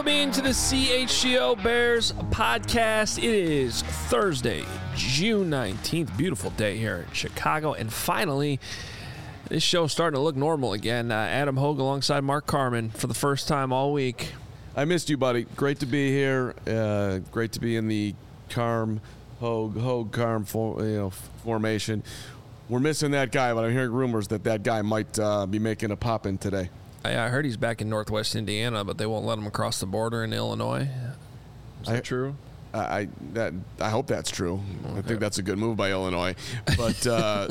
Welcome into the CHGO Bears podcast. It is Thursday, June 19th. Beautiful day here in Chicago. And finally, this show's starting to look normal again. Adam Hogue alongside Mark Carman for the first time all week. I missed you, buddy. Great to be here. Great to be in the Hogue-Carm formation. We're missing that guy, but I'm hearing rumors that guy might be making a pop-in today. I heard he's back in Northwest Indiana, but they won't let him across the border in Illinois. Is that true? I hope that's true. Okay. I think that's a good move by Illinois. But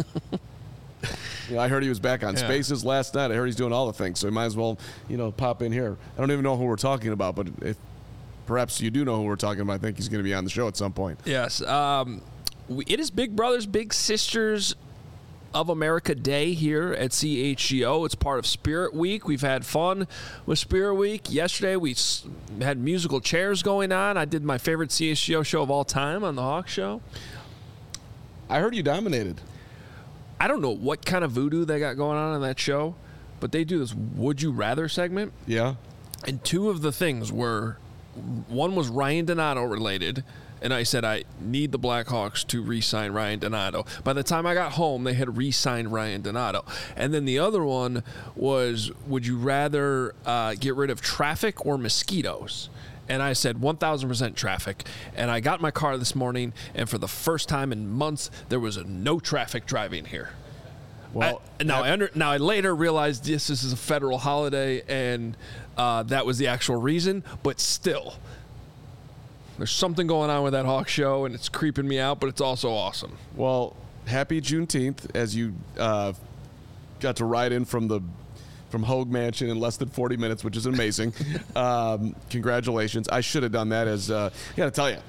I heard he was back on Spaces last night. I heard he's doing all the things, so he might as well pop in here. I don't even know who we're talking about, but if perhaps you do know who we're talking about, I think he's going to be on the show at some point. Yes. It is Big Brothers Big Sisters of America Day here at CHGO. It's part of Spirit Week. We've had fun with Spirit Week. Yesterday we had musical chairs going on. I did my favorite CHGO show of all time on the Hawk Show. I heard you dominated. I don't know what kind of voodoo they got going on that show, but they do this Would You Rather segment. Yeah. And two of the things were, one was Ryan Donato related, and I said I need the Blackhawks to re-sign Ryan Donato. By the time I got home, they had re-signed Ryan Donato. And then the other one was, would you rather get rid of traffic or mosquitoes? And I said 1,000% traffic. And I got in my car this morning, and for the first time in months, there was no traffic driving here. Well, I later realized this is a federal holiday, and that was the actual reason. But still, there's something going on with that Hawk Show, and it's creeping me out, but it's also awesome. Well, happy Juneteenth, as you got to ride in from Hogue Mansion in less than 40 minutes, which is amazing. Congratulations. I should have done that as, I got to tell you,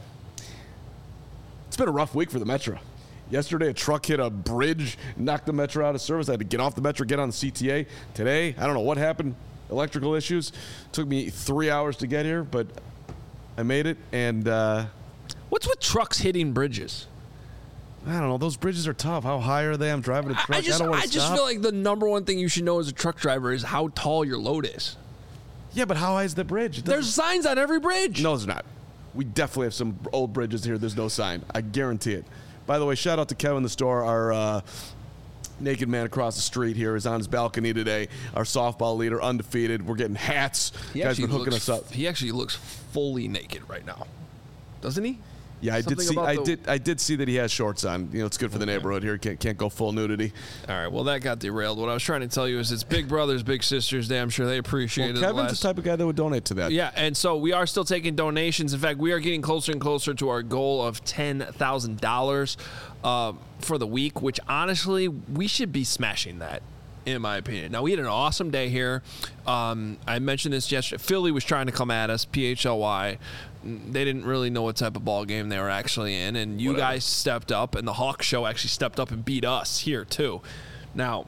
it's been a rough week for the Metro. Yesterday, a truck hit a bridge, knocked the Metro out of service. I had to get off the Metro, get on the CTA. Today, I don't know what happened, electrical issues. Took me 3 hours to get here, but I made it. And what's with trucks hitting bridges? I don't know. Those bridges are tough. How high are they? I'm driving a truck. I don't want to stop. I just feel like the number one thing you should know as a truck driver is how tall your load is. Yeah, but how high is the bridge? There's signs on every bridge. No, there's not. We definitely have some old bridges here. There's no sign. I guarantee it. By the way, shout out to Kevin the store. Our naked man across the street here is on his balcony today. Our softball leader, undefeated. We're getting hats. Guys been hooking us up. He actually looks fully naked right now, doesn't he? Yeah, I did see that he has shorts on. It's good for the neighborhood here. Can't go full nudity. All right, well, that got derailed. What I was trying to tell you is it's Big Brothers Big Sisters Day. I'm sure they appreciate it. Kevin's the type of guy that would donate to that. Yeah, and so we are still taking donations. In fact, we are getting closer and closer to our goal of $10,000 for the week, which honestly, we should be smashing that, in my opinion. Now, we had an awesome day here. I mentioned this yesterday. Philly was trying to come at us, PHLY. They didn't really know what type of ball game they were actually in, and you guys stepped up, and the Hawk Show actually stepped up and beat us here, too. Now,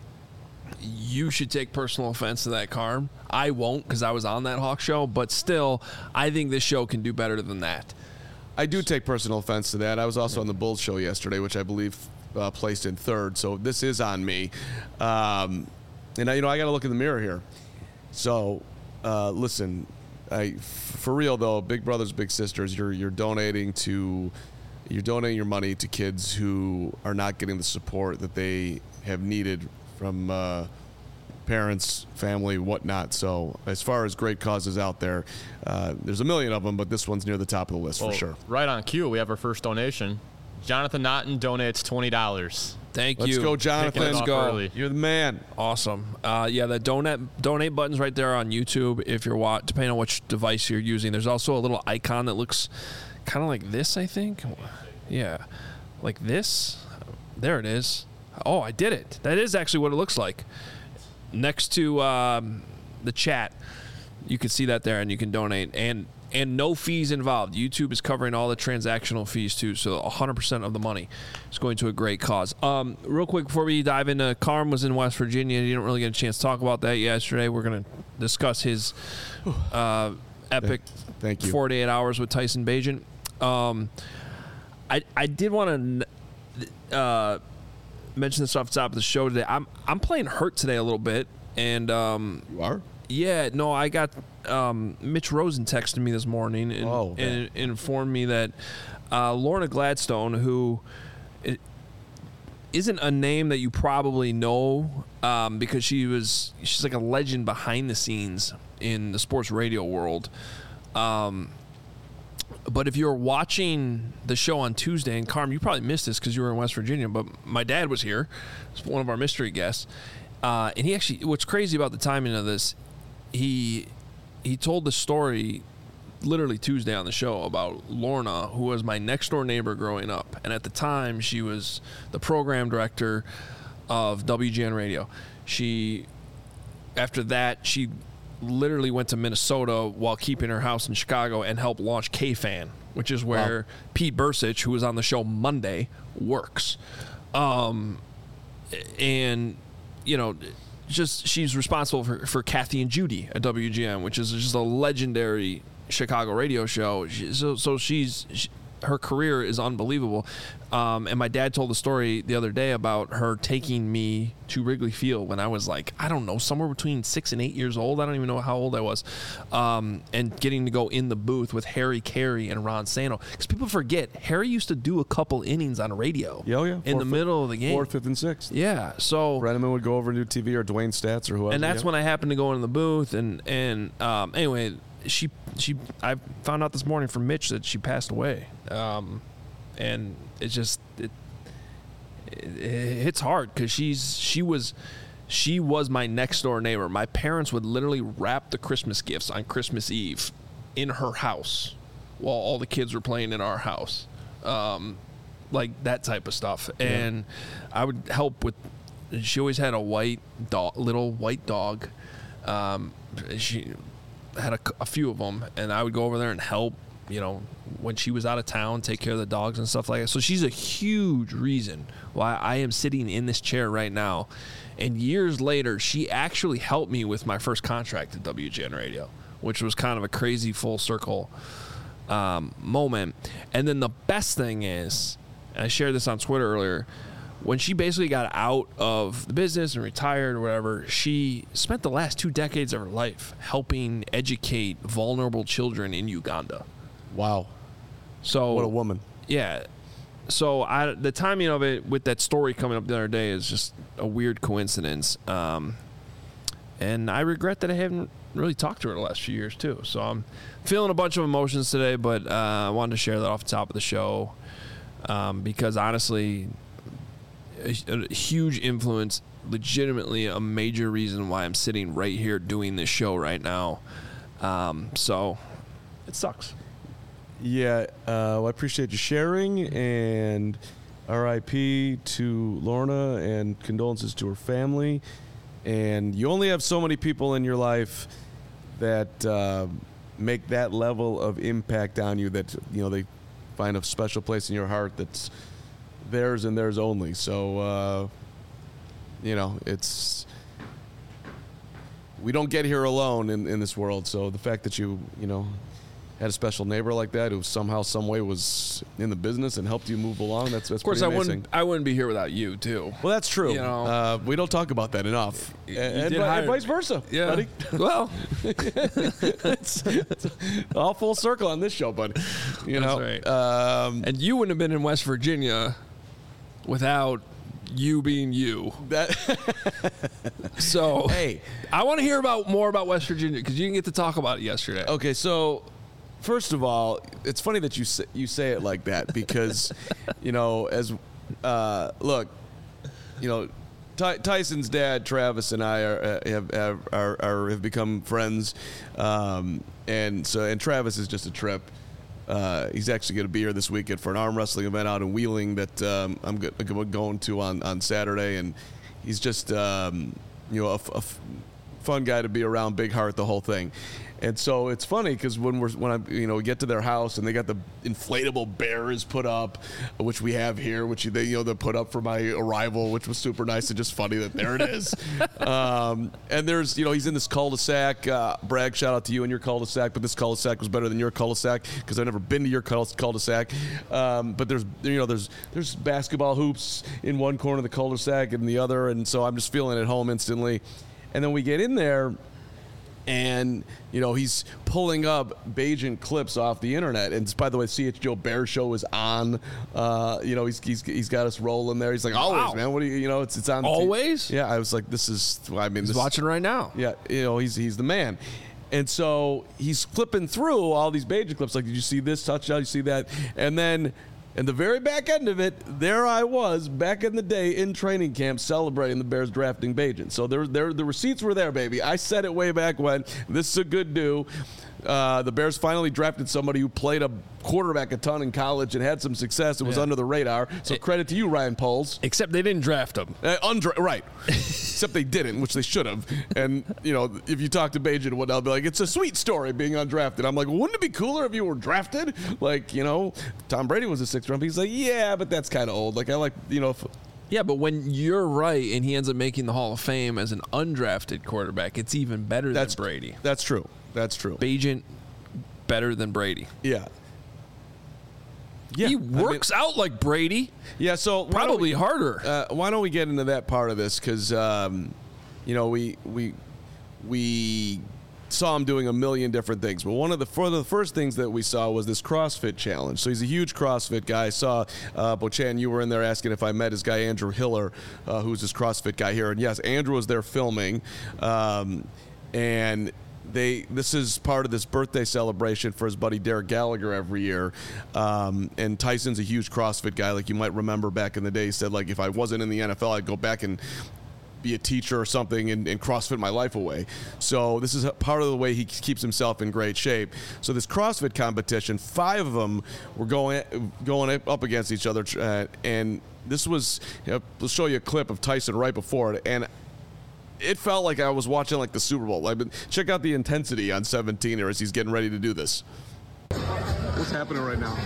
you should take personal offense to that, Carm. I won't, because I was on that Hawk Show, but still, I think this show can do better than that. I do take personal offense to that. I was also on the Bulls show yesterday, which I believe placed in third, so this is on me. And I got to look in the mirror here. So, listen, for real though, Big Brothers Big Sisters, you're donating your money to kids who are not getting the support that they have needed from parents, family, whatnot. So as far as great causes out there, there's a million of them, but this one's near the top of the list for sure. Right on cue, we have our first donation. Jonathan Naughton donates $20. Thank you. Let's go, Jonathan. Let's go. Early. You're the man. Awesome. The donate button's right there on YouTube if you're depending on which device you're using. There's also a little icon that looks kind of like this, I think. Yeah. Like this. There it is. Oh, I did it. That is actually what it looks like. Next to the chat, you can see that there, and you can donate. And no fees involved. YouTube is covering all the transactional fees, too, so 100% of the money is going to a great cause. Real quick, before we dive into, Carm was in West Virginia. You didn't really get a chance to talk about that yesterday. We're going to discuss his epic 48 hours with Tyson Bagent. I did want to mention this off the top of the show today. I'm playing hurt today a little bit. And you are? Yeah, no, I got Mitch Rosen texted me this morning and informed me that Lorna Gladstone, who isn't a name that you probably know because she's like a legend behind the scenes in the sports radio world. But if you're watching the show on Tuesday, and Carm, you probably missed this because you were in West Virginia, but my dad was here. He's one of our mystery guests. And he actually, what's crazy about the timing of this, he told the story literally Tuesday on the show about Lorna, who was my next door neighbor growing up. And at the time, she was the program director of WGN Radio. After that, she literally went to Minnesota while keeping her house in Chicago and helped launch K-Fan, which is where Pete Bursich, who was on the show Monday, works. And, you know, just she's responsible for Kathy and Judy at WGN, which is just a legendary Chicago radio show. Her career is unbelievable. And my dad told the story the other day about her taking me to Wrigley Field when I was like, I don't know, somewhere between 6 and 8 years old. I don't even know how old I was. And getting to go in the booth with Harry Carey and Ron Santo. Because people forget, Harry used to do a couple innings on radio. In the middle of the game. 4th, 5th, and 6th. Yeah. So Brenneman would go over and do TV, or Dwayne Stats or whoever. And that's when I happened to go in the booth. And anyway, I found out this morning from Mitch that she passed away. And it's just it's hard because she was my next door neighbor. My parents would literally wrap the Christmas gifts on Christmas Eve in her house while all the kids were playing in our house, like that type of stuff. Yeah. And I would help with. She always had a little white dog. She had a few of them, and I would go over there and help. You know, when she was out of town, take care of the dogs and stuff like that. So she's a huge reason why I am sitting in this chair right now. And years later, she actually helped me with my first contract at WGN Radio, which was kind of a crazy full circle moment. And then the best thing is, and I shared this on Twitter earlier, when she basically got out of the business and retired or whatever, she spent the last 2 decades of her life helping educate vulnerable children in Uganda. Wow. So what a woman. Yeah. So the timing of it with that story coming up the other day is just a weird coincidence. And I regret that I haven't really talked to her the last few years too. So I'm feeling a bunch of emotions today, but I wanted to share that off the top of the show because honestly, a huge influence, legitimately a major reason why I'm sitting right here doing this show right now. So it sucks. Yeah, I appreciate you sharing, and RIP to Lorna, and condolences to her family. And you only have so many people in your life that make that level of impact on you that, you know, they find a special place in your heart that's theirs and theirs only. So, you know, we don't get here alone in this world. So the fact that you know, had a special neighbor like that who somehow, some way was in the business and helped you move along. That's of course, pretty amazing. I wouldn't be here without you too. Well, that's true. You know, we don't talk about that enough, and vice versa. Yeah. Buddy. Well, it's all full circle on this show, buddy. You know, right. And you wouldn't have been in West Virginia without you being you. So hey, I want to hear more about West Virginia because you didn't get to talk about it yesterday. Okay, so. First of all, it's funny that you say it like that because, you know, look, you know, Tyson's dad, Travis, and I have become friends, and Travis is just a trip. He's actually going to be here this weekend for an arm wrestling event out in Wheeling that I'm going to on Saturday, and he's just you know, a fun guy to be around, big heart, the whole thing. And so it's funny because when we get to their house and they got the inflatable bears put up, which we have here, which they put up for my arrival, which was super nice and just funny that there it is. And there's, you know, he's in this cul-de-sac. Bragg, shout out to you and your cul-de-sac, but this cul-de-sac was better than your cul-de-sac because I've never been to your cul-de-sac. But there's basketball hoops in one corner of the cul-de-sac and the other, and so I'm just feeling at home instantly. And then we get in there. And, he's pulling up Bajan clips off the internet. And by the way, CH Joe Bear Show is on. He's got us rolling there. He's like, always, man. What do you, it's on. Always? Yeah, I was like, he's watching right now. Yeah, he's the man. And so he's flipping through all these Bajan clips. Like, did you see this touchdown? You see that? And then in the very back end of it, there I was back in the day in training camp celebrating the Bears drafting Bajan. So the receipts were there, baby. I said it way back when. This is a good do. The Bears finally drafted somebody who played a quarterback a ton in college and had some success. It was under the radar. So credit to you, Ryan Poles. Except they didn't draft him. Right. Except they didn't, which they should have. And, if you talk to Bajan and whatnot, they'll be like, it's a sweet story being undrafted. I'm like, well, wouldn't it be cooler if you were drafted? Like, Tom Brady was a 6th round pick. He's like, yeah, but that's kind of old. Like, I like, Yeah, but when you're right and he ends up making the Hall of Fame as an undrafted quarterback, it's even better than Brady. That's true. Bajan, better than Brady. Yeah. He works out like Brady. Yeah, so probably harder. Why don't we get into that part of this? Because we saw him doing a million different things, but one of the first things that we saw was this CrossFit challenge. So he's a huge CrossFit guy. I saw Bochan, you were in there asking if I met his guy Andrew Hiller, who's this CrossFit guy here, and yes, Andrew was there filming, and this is part of this birthday celebration for his buddy Derek Gallagher every year. And Tyson's a huge CrossFit guy. Like, you might remember back in the day, he said, like, if I wasn't in the NFL, I'd go back and be a teacher or something and CrossFit my life away. So this is part of the way he keeps himself in great shape. So this CrossFit competition, 5 of them were going up against each other. And this was, we'll show you a clip of Tyson right before it. And it felt like I was watching like the Super Bowl. Check out the intensity on 17 here as he's getting ready to do this. What's happening right now?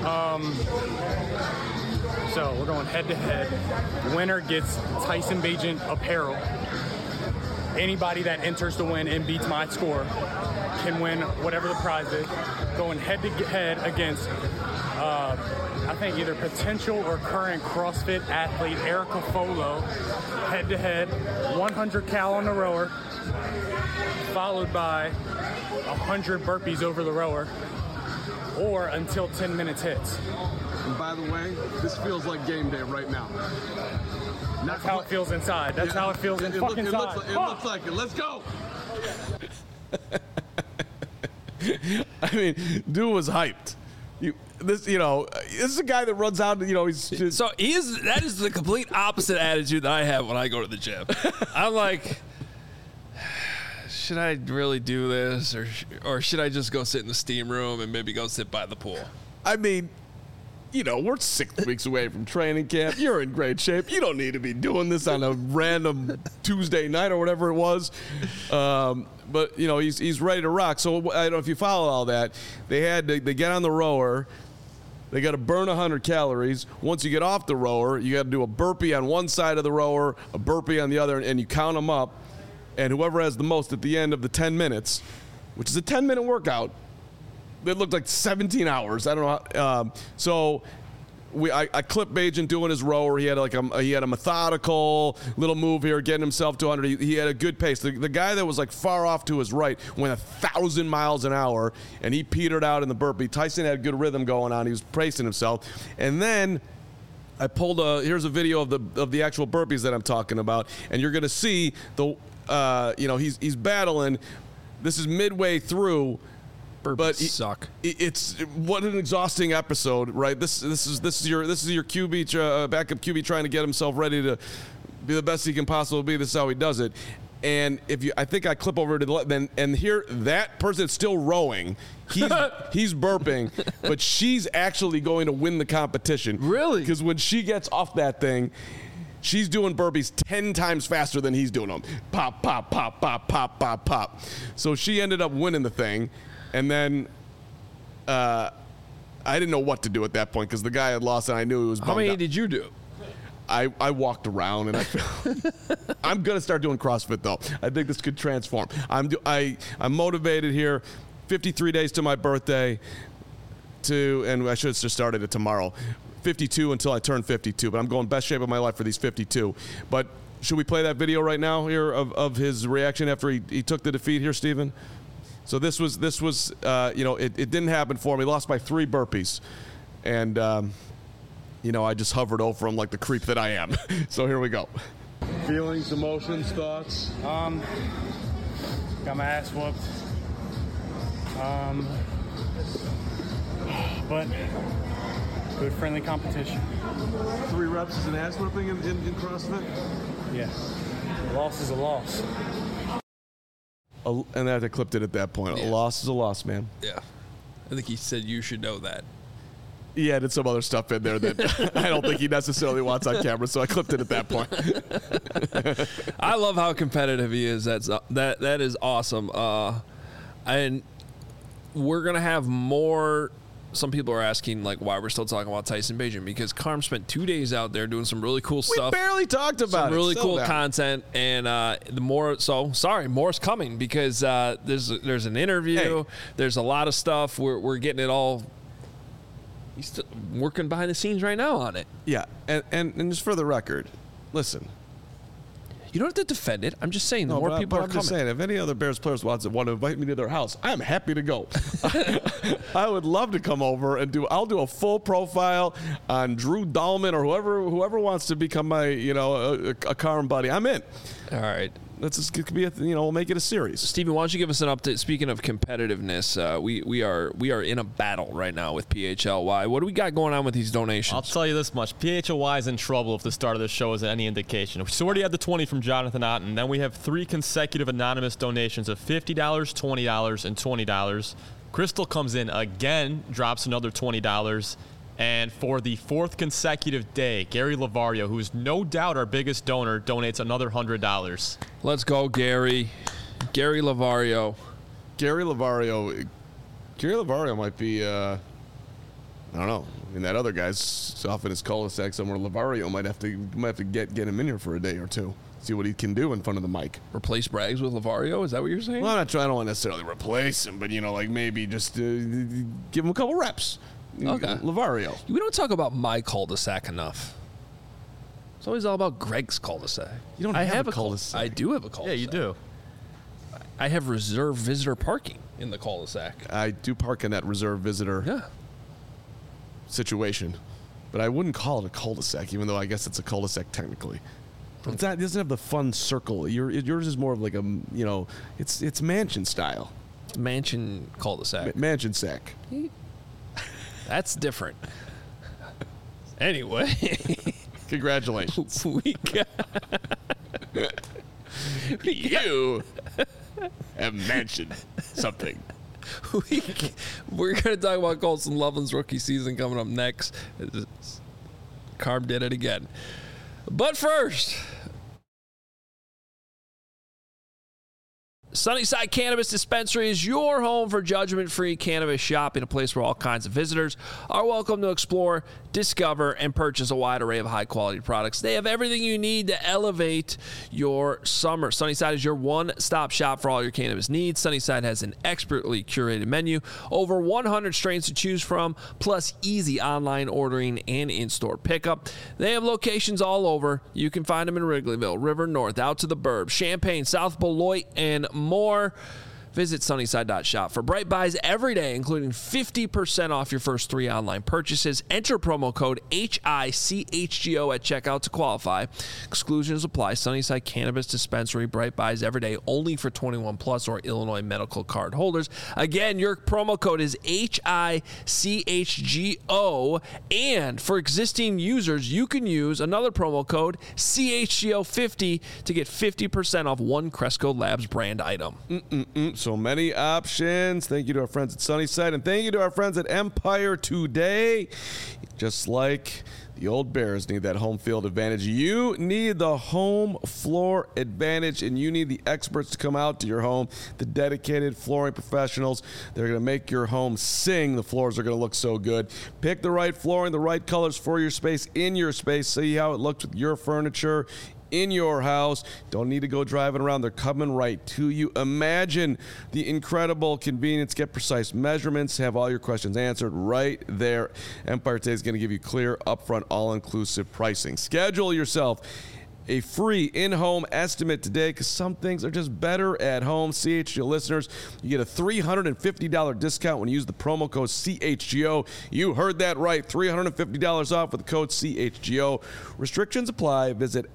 So we're going head to head. Winner gets Tyson Bajan apparel. Anybody that enters to win and beats my score can win whatever the prize is. Going head to head against I think either potential or current CrossFit athlete Erica Folo, head to head, 100 cal on the rower, followed by 100 burpees over the rower, or until 10 minutes hits. And by the way, this feels like game day right now. That's how it feels inside. That's how it feels inside. It looks like it. Let's go. I mean, dude was hyped. This is a guy that runs out. He's just, so that is the complete opposite attitude that I have when I go to the gym. I'm like, should I really do this, or should I just go sit in the steam room and maybe go sit by the pool? I mean, we're 6 weeks away from training camp. You're in great shape. You don't need to be doing this on a random Tuesday night or whatever it was. But he's ready to rock. So I don't know if you follow all that. They get on the rower. They got to burn 100 calories. Once you get off the rower, you got to do a burpee on one side of the rower, a burpee on the other, and you count them up. And whoever has the most at the end of the 10 minutes, which is a 10-minute workout, it looked like 17 hours. I don't know. So I clipped Bajan doing his rower. He had a methodical little move here, getting himself to 100. He had a good pace. The guy that was like far off to his right went 1,000 miles an hour, and he petered out in the burpee. Tyson had good rhythm going on. He was pacing himself, and then I pulled here's a video of the actual burpees that I'm talking about, and you're gonna see he's battling. This is midway through. Burpees suck. It's what an exhausting episode, right? This is your QB backup QB trying to get himself ready to be the best he can possibly be. This is how he does it. And I think I clip over to the left, and here that person is still rowing. He's burping, but she's actually going to win the competition. Really? Because when she gets off that thing, she's doing burpees 10 times faster than he's doing them. Pop, pop, pop, pop, pop, pop, pop. So she ended up winning the thing. And then I didn't know what to do at that point because the guy had lost and I knew he was bummed How many out. did you do? I walked around and I'm going to start doing CrossFit though. I think this could transform. I'm motivated here. 53 days to my birthday and I should have just started it tomorrow. 52 until I turn 52, but I'm going best shape of my life for these 52. But Should we play that video right now here of his reaction after he took the defeat here, Stephen? So this was it didn't happen for me. Lost by 3 burpees. And, I just hovered over him like the creep that I am. So here we go. Feelings, emotions, thoughts? Got my ass whooped. But good friendly competition. 3 reps is an ass whipping in CrossFit? Yeah. A loss is a loss. And I clipped it at that point. Yeah. A loss is a loss, man. Yeah. I think he said you should know that. He added some other stuff in there that I don't think he necessarily wants on camera, so I clipped it at that point. I love how competitive he is. That is awesome. And we're gonna have more. Some people are asking like why we're still talking about Tyson Bagent, because Carm spent 2 days out there doing some really cool stuff. We barely talked about some it. really Still cool that. content, and more's coming because there's an interview. Hey. There's a lot of stuff. We're getting it all. He's still working behind the scenes right now on it. Yeah, and just for the record, listen. You don't have to defend it. I'm just saying the more people are I'm coming. just saying, if any other Bears players want to invite me to their house, I'm happy to go. I would love to come over and I'll do a full profile on Drew Dahlman or whoever wants to become my, a Carm buddy. I'm in. All right. Let's just be we'll make it a series. Stephen, why don't you give us an update? Speaking of competitiveness, we are in a battle right now with PHLY. What do we got going on with these donations? I'll tell you this much. PHLY is in trouble if the start of the show is any indication. We already had the 20 from Jonathan Otten. Then we have 3 consecutive anonymous donations of $50, $20, and $20. Crystal comes in again, drops another $20. And for the 4th consecutive day, Gary Lavario, who is no doubt our biggest donor, donates another $100. Let's go, Gary. Gary Lavario. Gary Lavario might be, I don't know. I mean, that other guy's off in his cul-de-sac somewhere. Lavario might have to get him in here for a day or two. See what he can do in front of the mic. Replace Braggs with Lavario? Is that what you're saying? Well, I don't want to necessarily replace him, but, maybe just give him a couple reps. Okay. Lavario. We don't talk about my cul-de-sac enough. It's always all about Greg's cul-de-sac. You don't have a cul-de-sac. I do have a cul-de-sac. Yeah, you do. I have reserved visitor parking in the cul-de-sac. I do park in that reserve visitor situation, but I wouldn't call it a cul-de-sac, even though I guess it's a cul-de-sac technically. But it doesn't have the fun circle. Yours is more of like it's mansion style. Mansion cul-de-sac. Mansion sack. That's different. Anyway. Congratulations. We got... You have mentioned something. We're going to talk about Colson Loveland's rookie season coming up next. Carm did it again. But first... Sunnyside Cannabis Dispensary is your home for judgment-free cannabis shopping, a place where all kinds of visitors are welcome to explore, discover, and purchase a wide array of high-quality products. They have everything you need to elevate your summer. Sunnyside is your one-stop shop for all your cannabis needs. Sunnyside has an expertly curated menu, over 100 strains to choose from, plus easy online ordering and in-store pickup. They have locations all over. You can find them in Wrigleyville, River North, out to the Burbs, Champaign, South Beloit, and more. Visit Sunnyside.shop for bright buys every day, including 50% off your first 3 online purchases. Enter promo code HICHGO at checkout to qualify. Exclusions apply. Sunnyside Cannabis Dispensary, bright buys every day, only for 21 plus or Illinois medical card holders. Again, your promo code is HICHGO, and for existing users, you can use another promo code CHGO50 to get 50% off one Cresco Labs brand item. So many options. Thank you to our friends at Sunnyside, and thank you to our friends at Empire Today. Just like the old Bears need that home field advantage, you need the home floor advantage, and you need the experts to come out to your home, the dedicated flooring professionals. They're going to make your home sing. The floors are going to look so good. Pick the right flooring, the right colors for your space, in your space. See how it looks with your furniture in your house. Don't need to go driving around. They're coming right to you. Imagine the incredible convenience. Get precise measurements. Have all your questions answered right there. Empire Today is going to give you clear, upfront, all-inclusive pricing. Schedule yourself a free in-home estimate today because some things are just better at home. CHGO listeners, you get a $350 discount when you use the promo code CHGO. You heard that right, $350 off with the code CHGO. Restrictions apply. Visit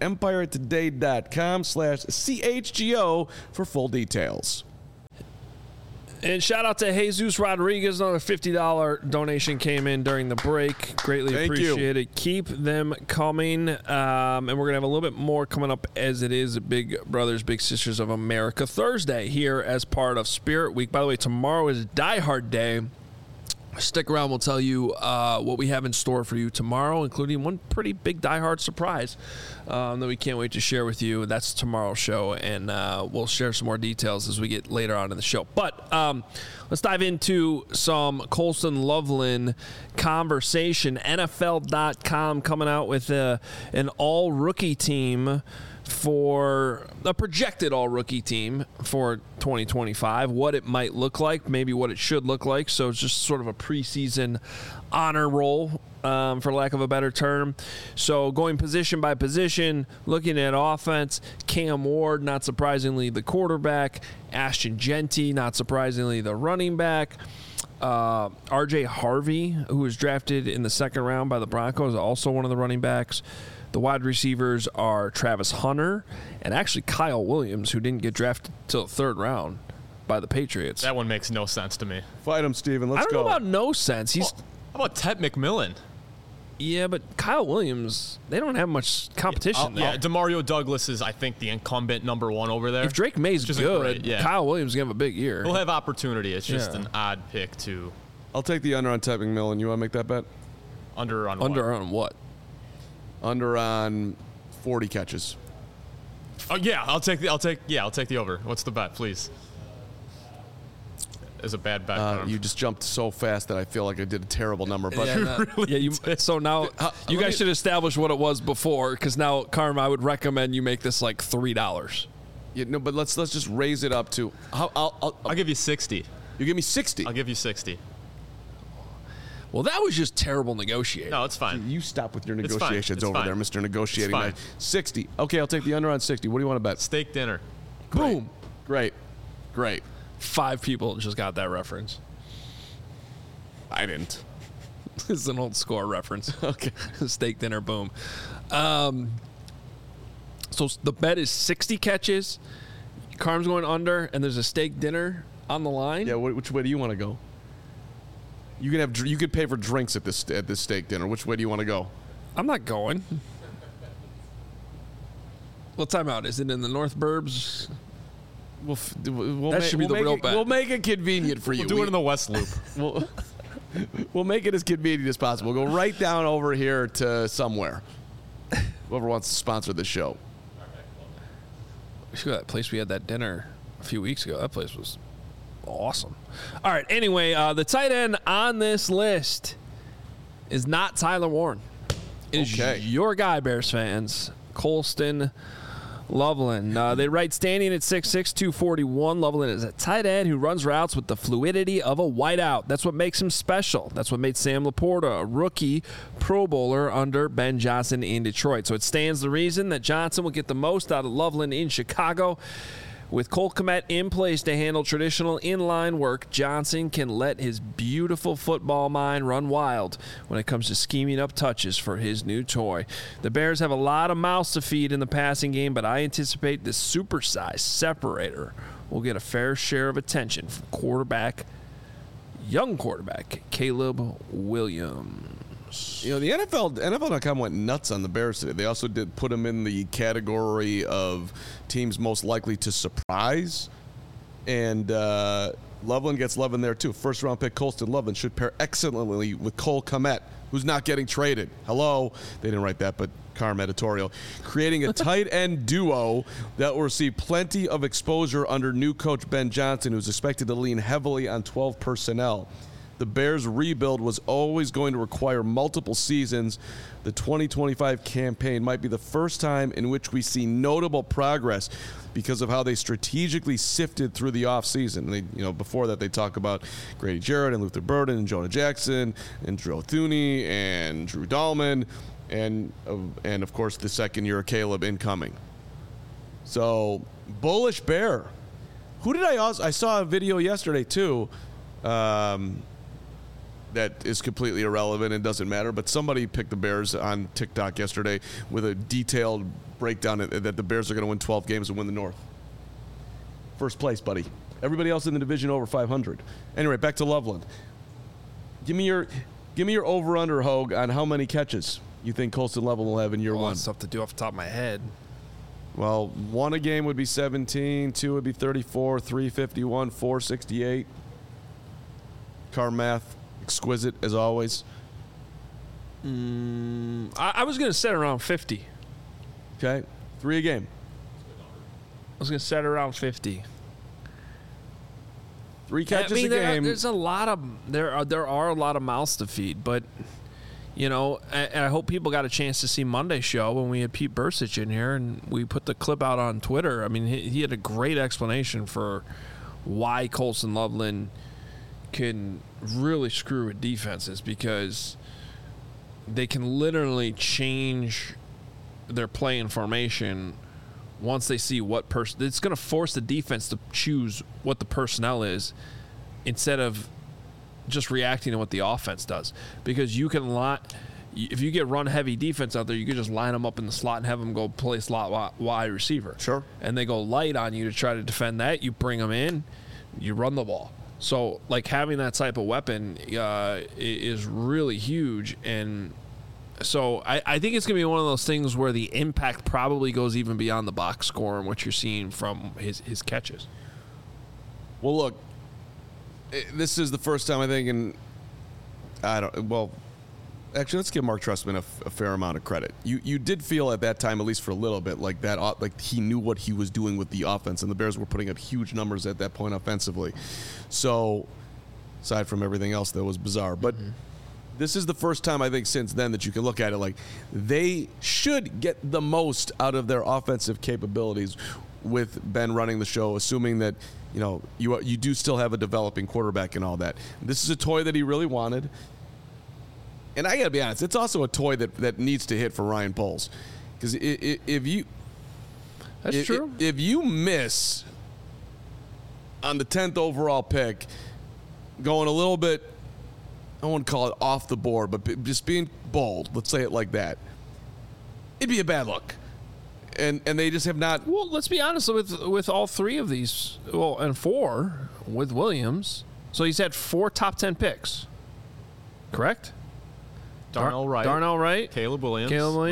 empiretoday.com/CHGO for full details. And shout out to Jesus Rodriguez. Another $50 donation came in during the break. Greatly appreciate it. Keep them coming. And we're going to have a little bit more coming up as it is Big Brothers, Big Sisters of America Thursday here as part of Spirit Week. By the way, tomorrow is Die Hard Day. Stick around. We'll tell you what we have in store for you tomorrow, including one pretty big Die Hard surprise that we can't wait to share with you. That's tomorrow's show, and we'll share some more details as we get later on in the show. But let's dive into some Colston Loveland conversation. NFL.com coming out with an all-rookie team for a projected all-rookie team for 2025, what it might look like, maybe what it should look like. So it's just sort of a preseason honor roll, for lack of a better term. So going position by position, looking at offense, Cam Ward, not surprisingly, the quarterback, Ashton Jeanty, not surprisingly, the running back, RJ Harvey, who was drafted in the second round by the Broncos, also one of the running backs. The wide receivers are Travis Hunter and actually Kyle Williams, who didn't get drafted till the third round by the Patriots. That one makes no sense to me. Fight him, Steven. Let's go. I don't know about no sense. How about Ted McMillan? Yeah, but Kyle Williams, they don't have much competition there. Yeah, DeMario Douglas is, I think, the incumbent number one over there. If Drake May's good, Kyle Williams is going to have a big year. He'll have opportunity. It's just an odd pick to... I'll take the under on Ted McMillan. You want to make that bet? Under on what? Under on what? Under on 40 catches. Oh yeah, I'll take the over. What's the bet, please? It's a bad bet. You just jumped so fast that I feel like I did a terrible number. But so now you guys should establish what it was before, because now, Carm, I would recommend you make this like $3. Yeah, no, but let's just raise it up to. I'll give you 60. You give me 60. I'll give you 60. Well, that was just terrible negotiating. No, it's fine. You stop with your negotiations over there, Mr. Negotiating. It's fine. 60. Okay, I'll take the under on 60. What do you want to bet? Steak dinner. Boom. Great. 5 people just got that reference. I didn't. This is an old score reference. Okay. Steak dinner, boom. So the bet is 60 catches. Carm's going under, and there's a steak dinner on the line. Yeah, which way do you want to go? You can pay for drinks at this steak dinner. Which way do you want to go? I'm not going. Well, time out. Is it in the North Burbs? That should be the real bet. We'll make it convenient for you. We'll do it in the West Loop. We'll make it as convenient as possible. We'll go right down over here to somewhere. Whoever wants to sponsor the show. That place we had that dinner a few weeks ago. That place was awesome. All right. Anyway, the tight end on this list is not Tyler Warren. It is your guy, Bears fans, Colston Loveland. They write standing at 6'6", 241. Loveland is a tight end who runs routes with the fluidity of a wideout. That's what makes him special. That's what made Sam Laporta a rookie Pro Bowler under Ben Johnson in Detroit. So it stands to reason that Johnson will get the most out of Loveland in Chicago. With Cole Kmet in place to handle traditional inline work, Johnson can let his beautiful football mind run wild when it comes to scheming up touches for his new toy. The Bears have a lot of mouths to feed in the passing game, but I anticipate this supersized separator will get a fair share of attention from young quarterback Caleb Williams. You know, the NFL.com went nuts on the Bears today. They also did put them in the category of teams most likely to surprise. And Loveland gets love in there, too. First-round pick Colston Loveland should pair excellently with Cole Kmet, who's not getting traded. Hello. They didn't write that, but Carm editorial. Creating a tight end duo that will receive plenty of exposure under new coach Ben Johnson, who's expected to lean heavily on 12 personnel. The Bears' rebuild was always going to require multiple seasons. The 2025 campaign might be the first time in which we see notable progress because of how they strategically sifted through the offseason. Before that, they talk about Grady Jarrett and Luther Burden and Jonah Jackson and Drew Thuney and Drew Dahlman. and of course the second year of Caleb incoming. So bullish Bear. Who did I saw a video yesterday too. That is completely irrelevant and doesn't matter, but somebody picked the Bears on TikTok yesterday with a detailed breakdown that the Bears are going to win 12 games and win the North. First place, buddy. Everybody else in the division over 500. Anyway, back to Loveland. Give me your over-under, Hogue, on how many catches you think Colston Loveland will have in year one. That's tough to do off the top of my head. Well, 1 a game would be 17, 2 would be 34, 3, 51, 4, 68. Car math. Exquisite as always. I was going to set around 50. Okay, 3 a game. I was going to set around 50. 3 catches a game. There are a lot of mouths to feed, but you know, and I hope people got a chance to see Monday's show when we had Pete Bursich in here and we put the clip out on Twitter. I mean, he had a great explanation for why Colston Loveland can really screw with defenses, because they can literally change their play and formation once they see what person. It's going to force the defense to choose what the personnel is instead of just reacting to what the offense does. Because you can if you get run heavy defense out there, you can just line them up in the slot and have them go play slot wide receiver. Sure. And they go light on you to try to defend that. You bring them in, you run the ball. So, like, having that type of weapon is really huge. And so I think it's going to be one of those things where the impact probably goes even beyond the box score and what you're seeing from his catches. Well, look, this is the first time I think actually, let's give Mark Trestman a fair amount of credit. You did feel at that time, at least for a little bit, like that, like he knew what he was doing with the offense, and the Bears were putting up huge numbers at that point offensively. So, aside from everything else that was bizarre, but this is the first time I think since then that you can look at it like they should get the most out of their offensive capabilities with Ben running the show, assuming that you do still have a developing quarterback and all that. This is a toy that he really wanted. And I got to be honest, it's also a toy that needs to hit for Ryan Poles. Because if you miss on the 10th overall pick, going a little bit, I won't call it off the board, but just being bold, let's say it like that, it'd be a bad look. And they just have not. Well, let's be honest with all 3 of these, and 4 with Williams. So he's had 4 top 10 picks, correct? Darnell Wright, Caleb Williams,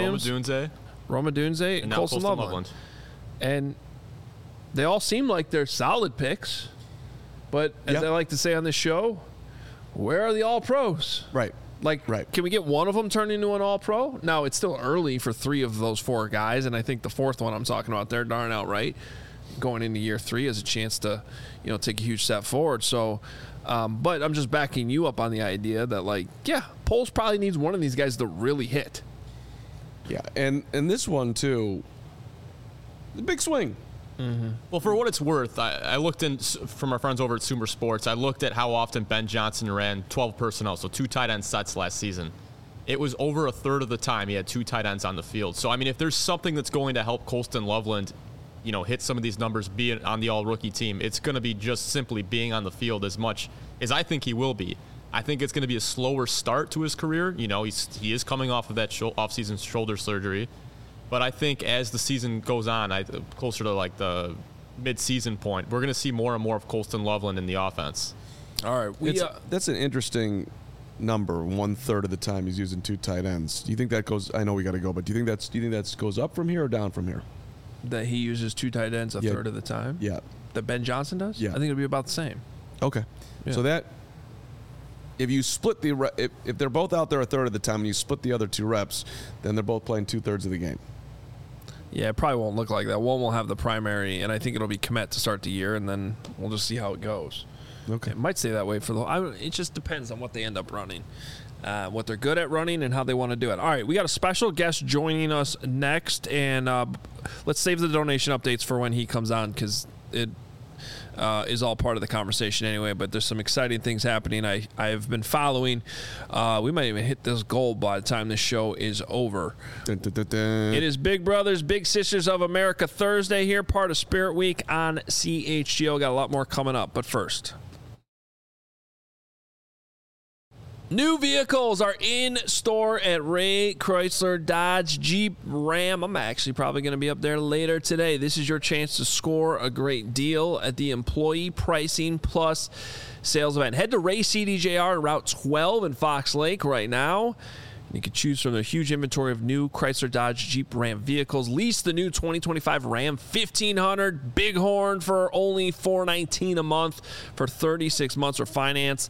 Roma Dunze, and Colston Loveland. And they all seem like they're solid picks, but as I like to say on this show, where are the All-Pros? Right. Can we get one of them turned into an All-Pro? No, it's still early for 3 of those 4 guys, and I think the 4th one I'm talking about there, Darnell Wright, going into year 3 has a chance to, take a huge step forward. So, but I'm just backing you up on the idea that, Poles probably needs one of these guys to really hit. Yeah, and this one, too, the big swing. Mm-hmm. Well, for what it's worth, I looked in from our friends over at Sumer Sports. I looked at how often Ben Johnson ran 12 personnel, so 2 tight end sets last season. It was over a third of the time he had 2 tight ends on the field. So, I mean, if there's something that's going to help Colston Loveland, hit some of these numbers, be on the all-rookie team, it's going to be just simply being on the field as much as I think he will be. I think it's going to be a slower start to his career. He is coming off of that off-season shoulder surgery. But I think as the season goes on, closer to the mid-season point, we're going to see more and more of Colston Loveland in the offense. All right. That's an interesting number. 1/3 of the time he's using 2 tight ends. Do you think that goes? I know we got to go, but do you think that goes up from here or down from here? That he uses 2 tight ends a third of the time? Yeah. That Ben Johnson does? Yeah. I think it'll be about the same. Okay. Yeah. So that, if you split if they're both out there a third of the time and you split the other 2 reps, then they're both playing 2/3 of the game. Yeah, it probably won't look like that. One will have the primary, and I think it'll be Kmet to start the year, and then we'll just see how it goes. Okay. It might stay that way it just depends on what they end up running, what they're good at running, and how they want to do it. All right, we got a special guest joining us next, and let's save the donation updates for when he comes on, because is all part of the conversation anyway. But there's some exciting things happening. I've been following. We might even hit this goal by the time this show is over. Dun, dun, dun, dun. It is Big Brothers Big Sisters of America Thursday here, part of Spirit Week on CHGO. Got a lot more coming up, but first. New vehicles are in store at Ray Chrysler Dodge Jeep Ram. I'm actually probably going to be up there later today. This is your chance to score a great deal at the Employee Pricing Plus sales event. Head to Ray CDJR Route 12 in Fox Lake right now. You can choose from the huge inventory of new Chrysler Dodge Jeep Ram vehicles. Lease the new 2025 Ram 1500 Bighorn for only $419 a month for 36 months, or finance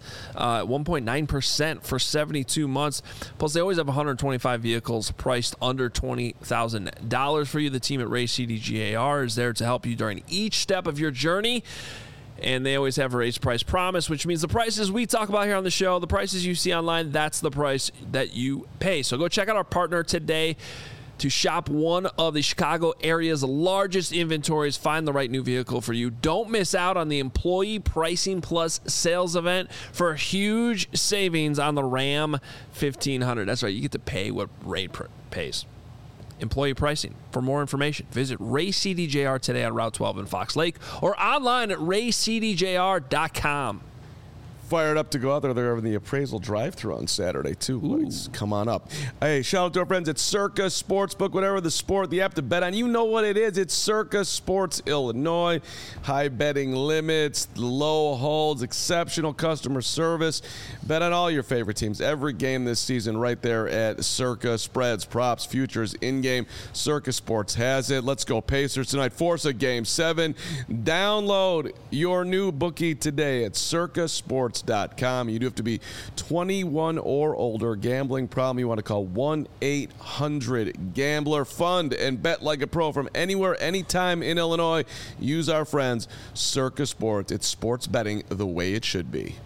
1.9% for 72 months. Plus, they always have 125 vehicles priced under $20,000 for you. The team at Ray CDJR is there to help you during each step of your journey. And they always have a raised price promise, which means the prices we talk about here on the show, the prices you see online, that's the price that you pay. So go check out our partner today to shop one of the Chicago area's largest inventories. Find the right new vehicle for you. Don't miss out on the Employee Pricing Plus sales event for huge savings on the Ram 1500. That's right. You get to pay what Ray pays. Employee pricing. For more information, visit Ray CDJR today on Route 12 in Fox Lake or online at raycdjr.com. Fired up to go out there. They're having the appraisal drive-thru on Saturday, too. Please come on up. Hey, shout out to our friends at Circa Sportsbook. Whatever the sport, the app to bet on, you know what it is. It's Circa Sports Illinois. High betting limits, low holds, exceptional customer service. Bet on all your favorite teams. Every game this season right there at Circa. Spreads, props, futures, in-game. Circa Sports has it. Let's go Pacers tonight. Force a Game 7. Download your new bookie today at circasports.com. You do have to be 21 or older. Gambling problem, you want to call 1-800-GAMBLER. Fund and bet like a pro from anywhere, anytime in Illinois. Use our friends, Circa Sports. It's sports betting the way it should be.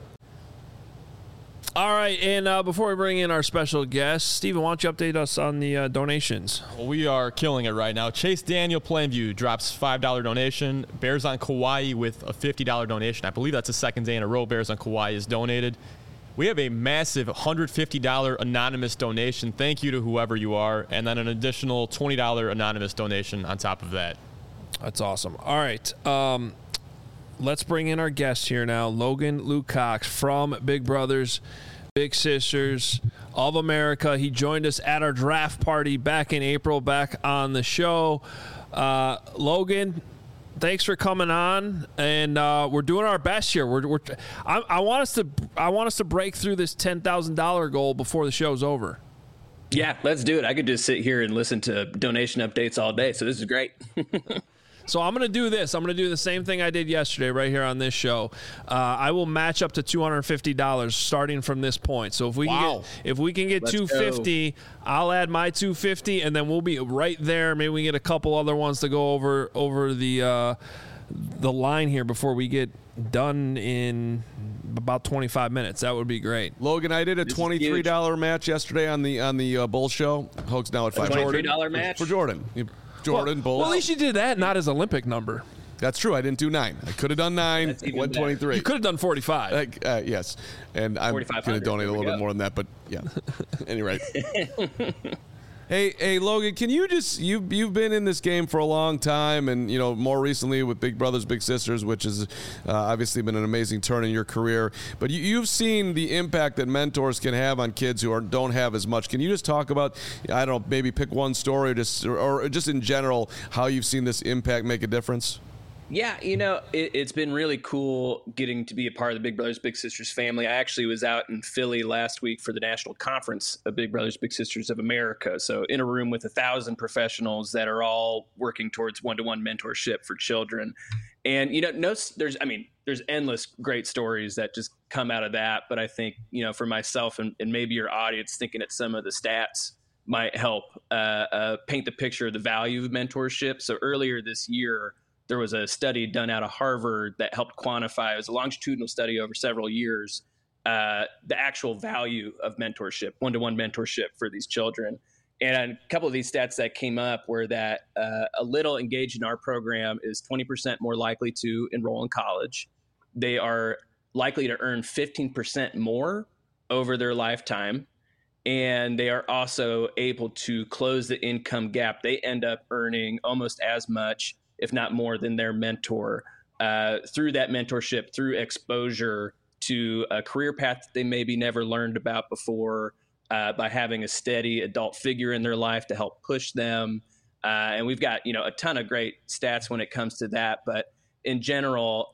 All right, and before we bring in our special guest, Steven, why don't you update us on the donations? Well, we are killing it right now. Chase Daniel Plainview drops $5 donation. Bears on Kauai with a $50 donation. I believe that's the second day in a row Bears on Kauai is donated. We have a massive $150 anonymous donation. Thank you to whoever you are. And then an additional $20 anonymous donation on top of that. That's awesome. All right. Let's bring in our guest here now, Logan Lukacs from Big Brothers Big Sisters of America. He joined us at our draft party back in April, back on the show. Logan, thanks for coming on, and we're doing our best here. I want us to break through this $10,000 goal before the show's over. Yeah, let's do it. I could just sit here and listen to donation updates all day, so this is great. So I'm going to do this. I'm going to do the same thing I did yesterday right here on this show. I will match up to $250 starting from this point. So if we can get Let's $250, I'll add my $250, and then we'll be right there. Maybe we can get a couple other ones to go over the line here before we get done in about 25 minutes. That would be great. Logan, I did a $23 match yesterday on the Bull Show. Hogs now at $5. $23 match for Jordan. Bull. Well, at least you did that, not his Olympic number. That's true. I didn't do 9. I could have done 9. Went 23. You could have done 45. Yes, and I'm going to donate a little bit more than that. But yeah, anyway. Hey, Logan, can you just you've been in this game for a long time, and more recently with Big Brothers Big Sisters, which has obviously been an amazing turn in your career. But you've seen the impact that mentors can have on kids who don't have as much. Can you just talk about, I don't know, maybe pick one story, or just in general, how you've seen this impact make a difference? Yeah, it's been really cool getting to be a part of the Big Brothers Big Sisters family. I actually was out in Philly last week for the national conference of Big Brothers Big Sisters of America. So in a room with 1,000 professionals that are all working towards one-to-one mentorship for children. And there's endless great stories that just come out of that. But I think for myself and maybe your audience, thinking at some of the stats might help paint the picture of the value of mentorship. So earlier this year, there was a study done out of Harvard that helped quantify, it was a longitudinal study over several years, the actual value of mentorship, one-to-one mentorship for these children. And a couple of these stats that came up were that a little engaged in our program is 20% more likely to enroll in college. They are likely to earn 15% more over their lifetime. And they are also able to close the income gap. They end up earning almost as much, if not more, than their mentor through that mentorship, through exposure to a career path that they maybe never learned about before, by having a steady adult figure in their life to help push them. And we've got, a ton of great stats when it comes to that. But in general,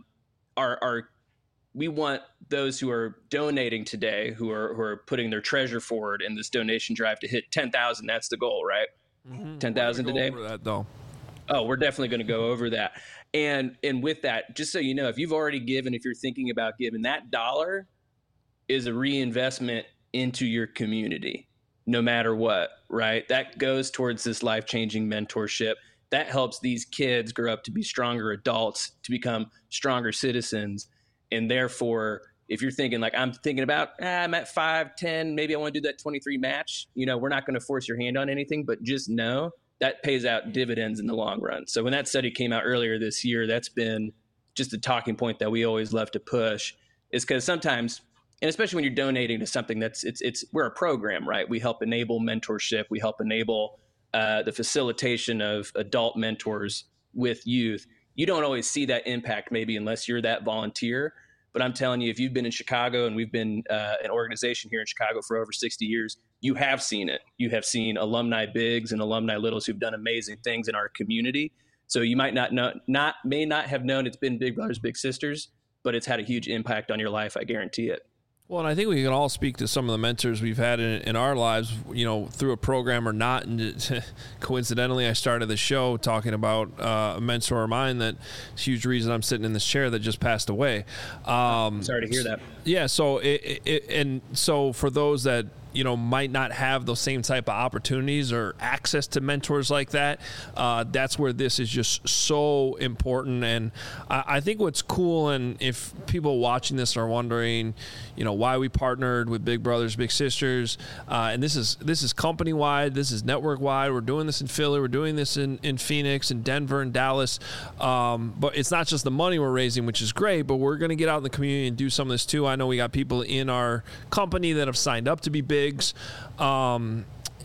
we want those who are donating today, who are putting their treasure forward in this donation drive, to hit 10,000. That's the goal, right? Mm-hmm. 10,000 today. Over that, though. Oh, we're definitely going to go over that. And with that, just so you know, if you've already given, if you're thinking about giving, that dollar is a reinvestment into your community, no matter what, right? That goes towards this life-changing mentorship. That helps these kids grow up to be stronger adults, to become stronger citizens. And therefore, if you're thinking like, I'm thinking about, I'm at 5'10", maybe I want to do that 23 match, we're not going to force your hand on anything, but just know that pays out dividends in the long run. So when that study came out earlier this year, that's been just a talking point that we always love to push, is because sometimes, and especially when you're donating to something we're a program, right? We help enable mentorship. We help enable the facilitation of adult mentors with youth. You don't always see that impact maybe unless you're that volunteer. But I'm telling you, if you've been in Chicago, and we've been an organization here in Chicago for over 60 years, you have seen it. You have seen alumni bigs and alumni littles who've done amazing things in our community. So you might may not have known it's been Big Brothers Big Sisters, but it's had a huge impact on your life. I guarantee it. Well, and I think we can all speak to some of the mentors we've had in our lives, through a program or not. And coincidentally, I started the show talking about a mentor of mine that's a huge reason I'm sitting in this chair that just passed away. Sorry to hear that. Yeah. So, so for those that, might not have those same type of opportunities or access to mentors like that, that's where this is just so important. And I think what's cool, and if people watching this are wondering, why we partnered with Big Brothers Big Sisters, and this is company wide, this is network wide. We're doing this in Philly, we're doing this in Phoenix and Denver and Dallas, but it's not just the money we're raising, which is great, but we're going to get out in the community and do some of this too. I know we got people in our company that have signed up to be bigs. And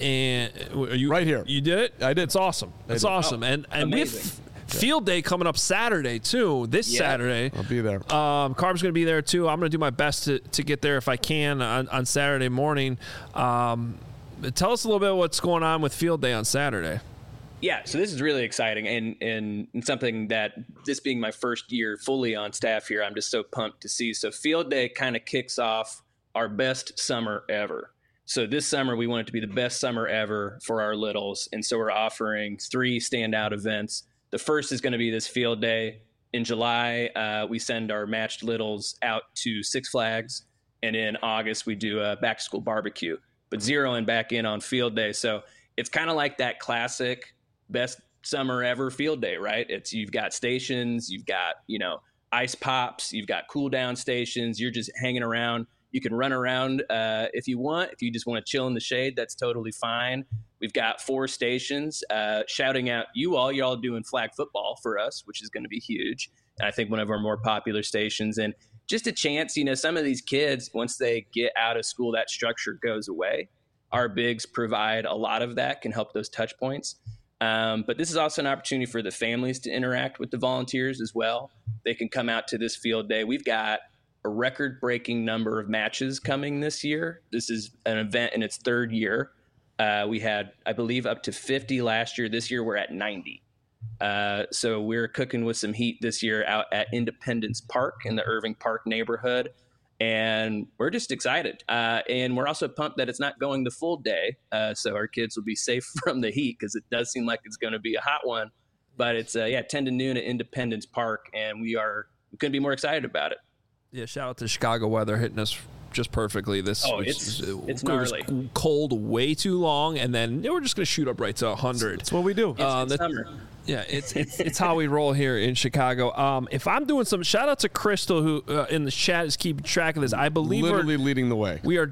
are you right here? You did it? I did. It's awesome. It's awesome. And with Field Day coming up Saturday too, Saturday. I'll be there. Carb's going to be there too. I'm going to do my best to get there if I can on Saturday morning. Tell us a little bit what's going on with Field Day on Saturday. Yeah, so this is really exciting, and something that, this being my first year fully on staff here, I'm just so pumped to see. So Field Day kind of kicks off our best summer ever. So this summer, we want it to be the best summer ever for our littles. And so we're offering 3 standout events. The first is going to be this Field Day. In July, we send our matched littles out to Six Flags. And in August, we do a back-to-school barbecue. But zeroing back in on Field Day. So it's kind of like that classic best summer ever Field Day, right? You've got stations, you've got, ice pops, you've got cool down stations. You're just hanging around. You can run around if you want. If you just want to chill in the shade, that's totally fine. We've got 4 stations shouting out y'all doing flag football for us, which is going to be huge. And I think one of our more popular stations. And just a chance, some of these kids, once they get out of school, that structure goes away. Our bigs provide a lot of that, can help those touch points. But this is also an opportunity for the families to interact with the volunteers as well. They can come out to this Field Day. We've got a record-breaking number of matches coming this year. This is an event in its 3rd year. We had, I believe, up to 50 last year. This year, we're at 90. So we're cooking with some heat this year out at Independence Park in the Irving Park neighborhood. And we're just excited. And we're also pumped that it's not going the full day. So our kids will be safe from the heat, because it does seem like it's going to be a hot one. But it's, 10 to noon at Independence Park. And we couldn't be more excited about it. Yeah, shout out to Chicago weather hitting us just perfectly. It's gnarly. It was cold way too long, and then we're just going to shoot up right to 100. That's what we do. It's summer. Yeah, it's how we roll here in Chicago. If I'm doing some shout out to Crystal, who in the chat is keeping track of this. I believe literally leading the way. We are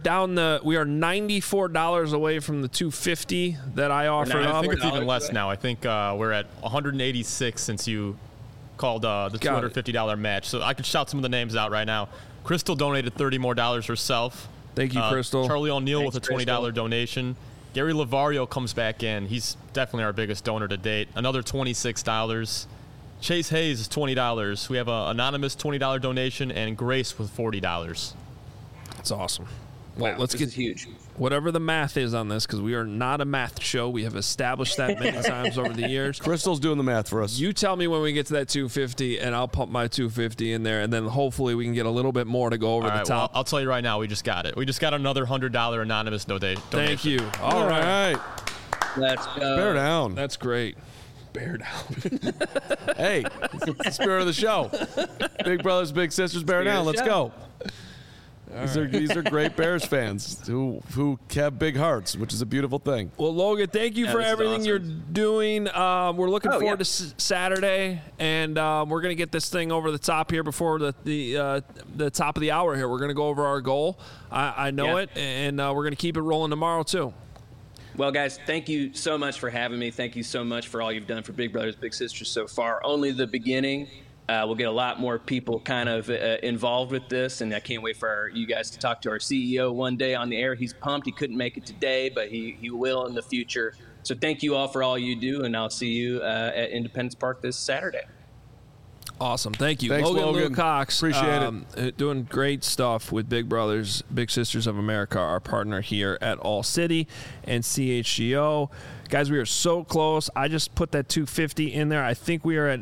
$94 away from the $250 that I offered up. I think it's even less now. I think we're at 186 since you called the $250 match. So I could shout some of the names out right now. Crystal donated $30 more herself. Thank you, Crystal. Charlie O'Neill with a $20 Crystal. donation. Gary Lavario comes back in. He's definitely our biggest donor to date. Another $26. Chase Hayes is $20. We have an anonymous $20 donation and Grace with $40. That's awesome. Well, let's this get is huge. whatever the math is on this, because we are not a math show. We have established that many times over the years. Crystal's doing the math for us. You tell me when we get to that 250, and I'll pump my 250 in there, and then hopefully we can get a little bit more to go over All the right, top. well, I'll tell you right now, we just got it. We just got another $100 anonymous donation. Thank you. All right. Let's go. Bear down. That's great. Bear down. Hey, it's the spirit of the show. Big brothers, big sisters, bear down. Let's go. These are great Bears fans who have big hearts, which is a beautiful thing. Well, Logan, thank you for this is everything awesome. you're doing. We're looking Oh, forward yeah. to Saturday, and we're going to get this thing over the top here before the top of the hour here. We're going to go over our goal. I know Yeah. it, and we're going to keep it rolling tomorrow, too. Well, guys, thank you so much for having me. Thank you so much for all you've done for Big Brothers Big Sisters so far. Only the beginning. We'll get a lot more people kind of involved with this, and I can't wait for you guys to talk to our CEO one day on the air. He's pumped. He couldn't make it today, but he will in the future. So thank you all for all you do, and I'll see you at Independence Park this Saturday. Awesome. Thank you. Thanks, Logan Logan. Cox. Appreciate it. Doing great stuff with Big Brothers, Big Sisters of America, our partner here at All City and CHGO. Guys, we are so close. I just put that 250 in there. I think we are at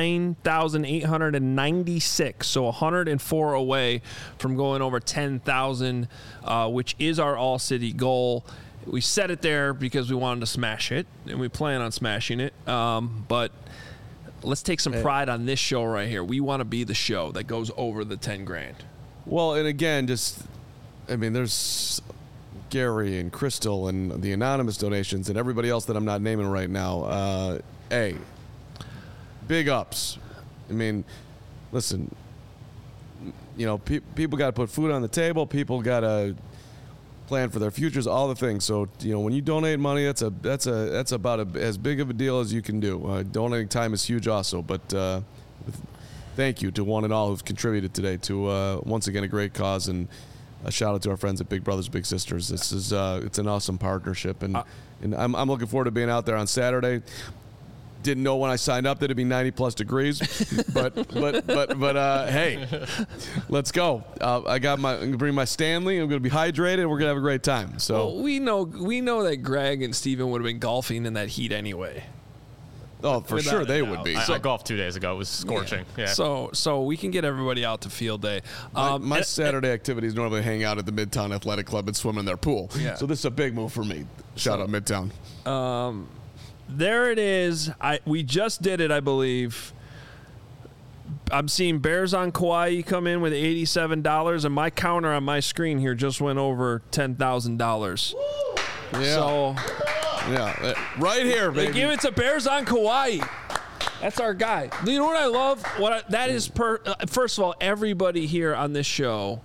9,896, so 104 away from going over 10,000, which is our All City goal. We set it there because we wanted to smash it, and we plan on smashing it. But let's take some pride on this show right here. We want to be the show that goes over the 10 grand. Well, and again, there's Gary and Crystal and the anonymous donations and everybody else that I'm not naming right now. Big ups. I mean, listen, people got to put food on the table. People got to plan for their futures, all the things. So, when you donate money, that's about as big of a deal as you can do. Donating time is huge also, but thank you to one and all who've contributed today to, once again, a great cause, and a shout out to our friends at Big Brothers Big Sisters. This is it's an awesome partnership, and I'm looking forward to being out there on Saturday. Didn't know when I signed up that it'd be 90 plus degrees, but hey, let's go. I'm gonna bring my Stanley. I'm gonna be hydrated. We're gonna have a great time. So Well, we know that Greg and Steven would have been golfing in that heat anyway. for without sure a they doubt. would be. I golfed 2 days ago. It was scorching. Yeah. So we can get everybody out to field day. My Saturday activities normally hang out at the Midtown Athletic Club and swim in their pool. Yeah. So this is a big move for me. Shout out Midtown. There it is. We just did it, I believe. I'm seeing Bears on Kauai come in with $87, and my counter on my screen here just went over $10,000. Yeah. So Right here, baby. give it to Bears on Kauai. That's our guy. You know what I love? That is first of all, everybody here on this show.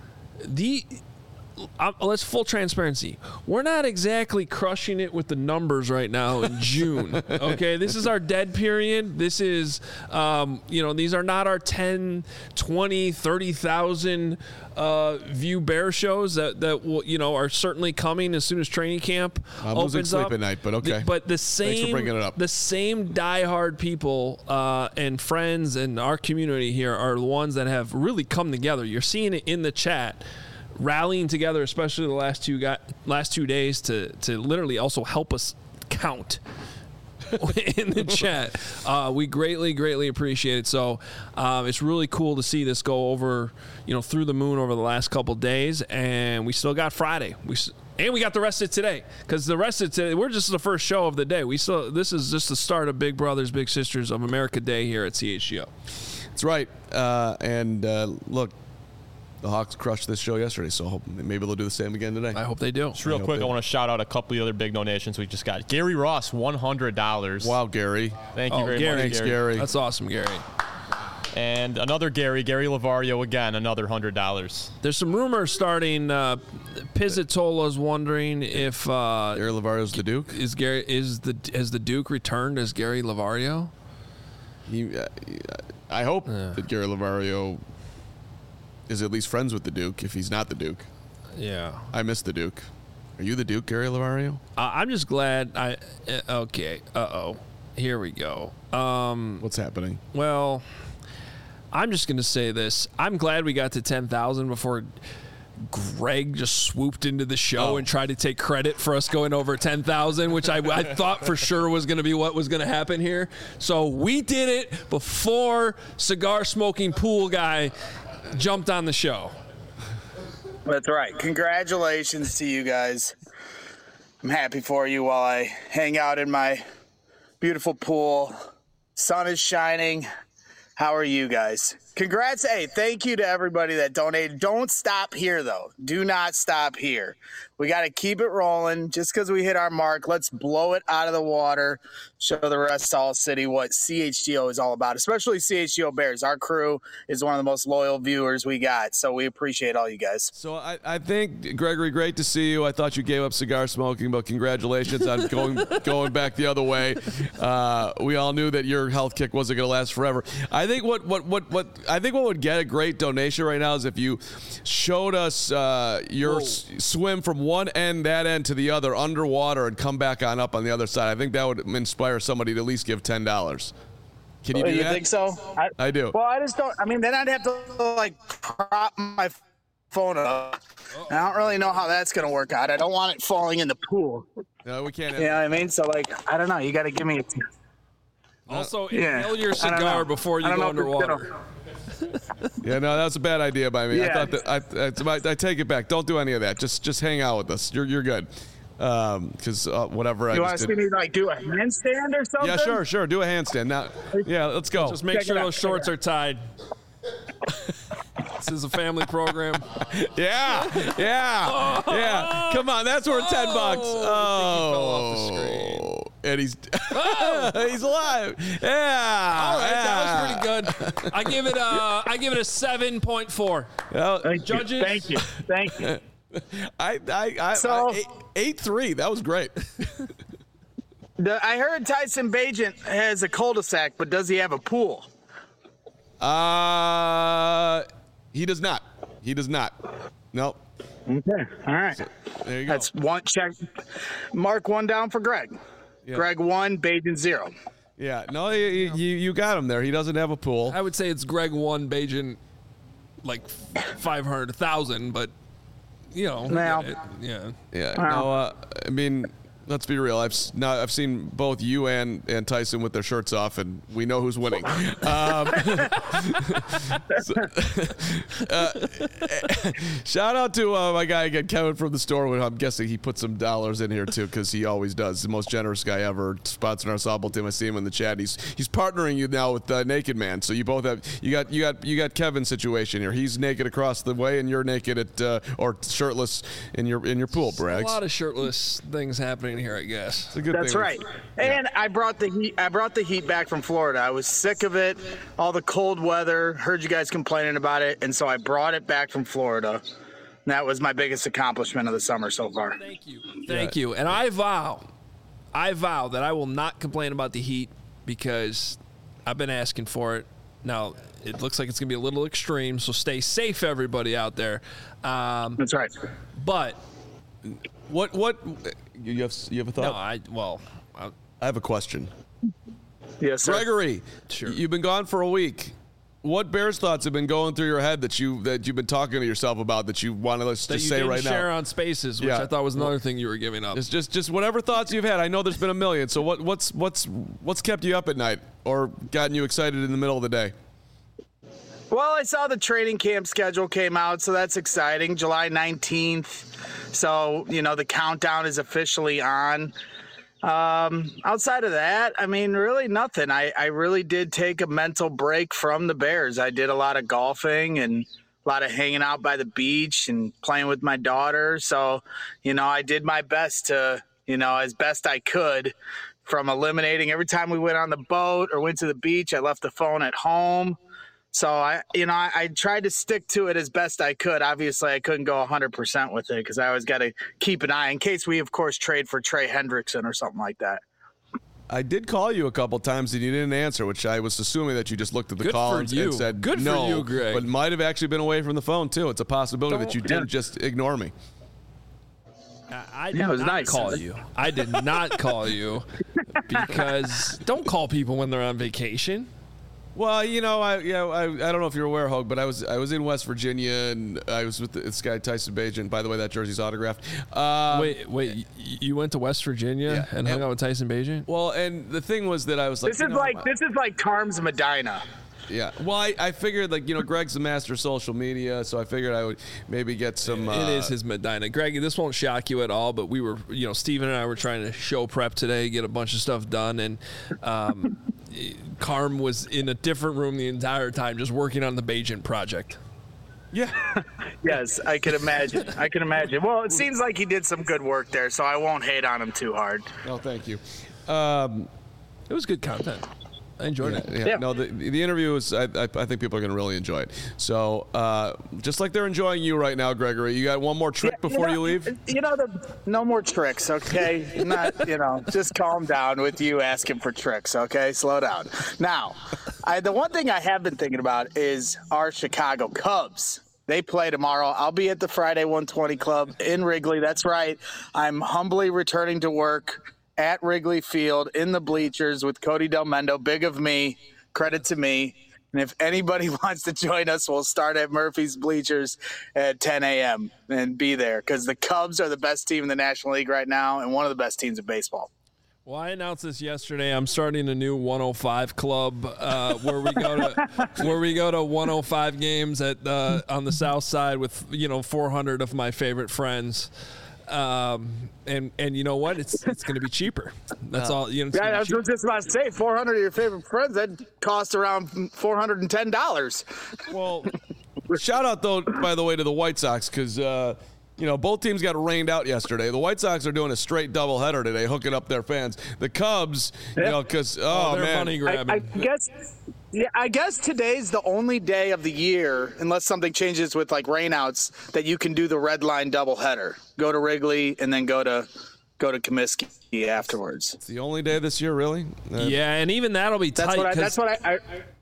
Let's full transparency. We're not exactly crushing it with the numbers right now in June. Okay, this is our dead period. This is, these are not our 10, 20, 30,000 view Bear shows that will, are certainly coming as soon as training camp I'm opens losing sleep up. at night, but okay. But the Thanks for same, bringing it up. the same diehard people and friends in our community here are the ones that have really come together. You're seeing it in the chat, rallying together, especially the last 2 days to literally also help us count in the chat. We greatly appreciate it. So it's really cool to see this go over, through the moon over the last couple days, and we still got Friday. And we got the rest of today, because the rest of today, we're just the first show of the day. This is just the start of Big Brothers Big Sisters of America Day here at CHGO. That's right. And look, the Hawks crushed this show yesterday, so maybe they'll do the same again today. I hope they do. Just real quick, I want to shout out a couple of the other big donations we just got. Gary Ross, $100. Wow, Gary. Thank you very Gary. much, Thanks, Gary. Gary. That's awesome, Gary. And another Gary Lavario again, another $100. There's some rumors starting. Pizzatola's wondering if Gary Lavario's the Duke. has the Duke returned as Gary Lavario? I hope that Gary Lavario is at least friends with the Duke if he's not the Duke. Yeah. I miss the Duke. Are you the Duke, Gary Lavario? I'm just glad okay. Uh-oh. Here we go. What's happening? Well, I'm just going to say this. I'm glad we got to 10,000 before Greg just swooped into the show and tried to take credit for us going over 10,000, which I thought for sure was going to be what was going to happen here. So we did it before cigar smoking pool guy jumped on the show. That's right. Congratulations to you guys. I'm happy for you while I hang out in my beautiful pool. Sun is shining. How are you guys? Congrats. Hey, thank you to everybody that donated. Don't stop here, though. Do not stop here. We got to keep it rolling. Just because we hit our mark, let's blow it out of the water. Show the rest of All City what CHGO is all about, especially CHGO Bears. Our crew is one of the most loyal viewers we got, so we appreciate all you guys. So I think, Gregory, great to see you. I thought you gave up cigar smoking, but congratulations on going back the other way. We all knew that your health kick wasn't going to last forever. I think what would get a great donation right now is if you showed us your swim from one end, that end to the other, underwater, and come back on up on the other side. I think that would inspire somebody to at least give $10. Can you do that? You think so? I do. Well, I just don't. I mean, then I'd have to prop my phone up. I don't really know how that's going to work out. I don't want it falling in the pool. No, we can't. You know what I mean? So, I don't know. You got to give me a. Also, inhale your cigar before you go underwater. Yeah, no, that was a bad idea by me. Yeah. I thought I take it back. Don't do any of that. Just hang out with us. You're good. Because whatever. You want to see me do a handstand or something? Yeah, sure. Do a handstand now. Yeah, let's go. Just make sure those shorts are tied. This is a family program. Yeah. Come on, that's worth $10. fell off the screen. And he's he's alive. Yeah. All right, that was pretty good. I give it a 7.4. Well, Judges. Thank you. I 8-3. That was great. I heard Tyson Bagent has a cul-de-sac, but does he have a pool? He does not. Nope. Okay. All right. There you go. That's one check. Mark one down for Greg. Yeah. Greg 1, Bagent 0. Yeah. No, you got him there. He doesn't have a pool. I would say it's Greg 1, Bajan 500,000, but Now. Yeah. Wow. No, I mean, let's be real. I've seen both you and Tyson with their shirts off, and we know who's winning. Shout out to my guy again, Kevin from the store. I'm guessing he put some dollars in here too, because he always does. The most generous guy ever, sponsoring our softball team. I see him in the chat. He's partnering you now with Naked Man. So you both have you got Kevin's situation here. He's naked across the way, and you're naked at or shirtless in your pool, Braggs. A lot of shirtless things happening here, I guess. It's a good That's thing. right. And I brought the heat. I brought the heat back from Florida. I was sick of it, all the cold weather. Heard you guys complaining about it, and so I brought it back from Florida. And that was my biggest accomplishment of the summer so far. Thank you. And I vow that I will not complain about the heat because I've been asking for it. Now it looks like it's gonna be a little extreme, so stay safe, everybody out there. That's right. But What you have a thought? no, I have a question. Yes, sir. Gregory, Sure. You've been gone for a week. What Bears thoughts have been going through your head that you've been talking to yourself about that you want to just that you say didn't right share now? on Spaces, which Yeah. I thought was another thing you were giving up. Just whatever thoughts you've had. I know there's been a million. So what's kept you up at night or gotten you excited in the middle of the day? Well, I saw the training camp schedule came out, so that's exciting. July 19th. So, the countdown is officially on. Outside of that, I mean, really nothing. I really did take a mental break from the Bears. I did a lot of golfing and a lot of hanging out by the beach and playing with my daughter. So, I did my best to, as best I could, from eliminating every time we went on the boat or went to the beach, I left the phone at home. So I tried to stick to it as best I could. Obviously, I couldn't go 100% with it because I always got to keep an eye in case we, of course, trade for Trey Hendrickson or something like that. I did call you a couple times and you didn't answer, which I was assuming that you just looked at the Good call for and you. said Good no. for you, Greg. But might have actually been away from the phone too. It's a possibility that you didn't just ignore me. I did not call you. I did not call you because don't call people when they're on vacation. Well, I don't know if you're aware, Hogue, but I was in West Virginia and I was with this guy Tyson Bagent. By the way, that jersey's autographed. Wait, you went to West Virginia and hung out with Tyson Bagent? Well, and the thing was that I was like, this is like Carm's Medina. Yeah. Well, I figured Greg's the master of social media, so I figured I would maybe get some. It is his Medina. Greg, this won't shock you at all, but we were, Steven and I were trying to show prep today, get a bunch of stuff done, and Carm was in a different room the entire time, just working on the Bagent project. Yeah. Yes, I can imagine. Well, it seems like he did some good work there, so I won't hate on him too hard. No, thank you. It was good content. I enjoyed it. Yeah. No, the interview was. I think people are going to really enjoy it. So, just like they're enjoying you right now, Gregory, you got one more trick before you leave? No more tricks, okay? Not, just calm down with you asking for tricks, okay? Slow down. Now, the one thing I have been thinking about is our Chicago Cubs. They play tomorrow. I'll be at the Friday 120 Club in Wrigley. That's right. I'm humbly returning to work at Wrigley Field in the bleachers with Cody Del Mendo. Big of me. Credit to me. And if anybody wants to join us, we'll start at Murphy's Bleachers at 10 a.m. and be there because the Cubs are the best team in the National League right now and one of the best teams in baseball. Well, I announced this yesterday. I'm starting a new 105 club where we go to 105 games at on the South Side with 400 of my favorite friends. And you know what? It's going to be cheaper. That's all. I was just about to say 400 of your favorite friends. That costs around $410. Well, shout out though, by the way, to the White Sox because both teams got rained out yesterday. The White Sox are doing a straight doubleheader today, hooking up their fans. The Cubs, because they're man, money grabbing. I guess today's the only day of the year, unless something changes with like rainouts, that you can do the red line doubleheader. Go to Wrigley and then go to Comiskey afterwards. It's the only day this year, really. Yeah, and even that'll be tight. That's what I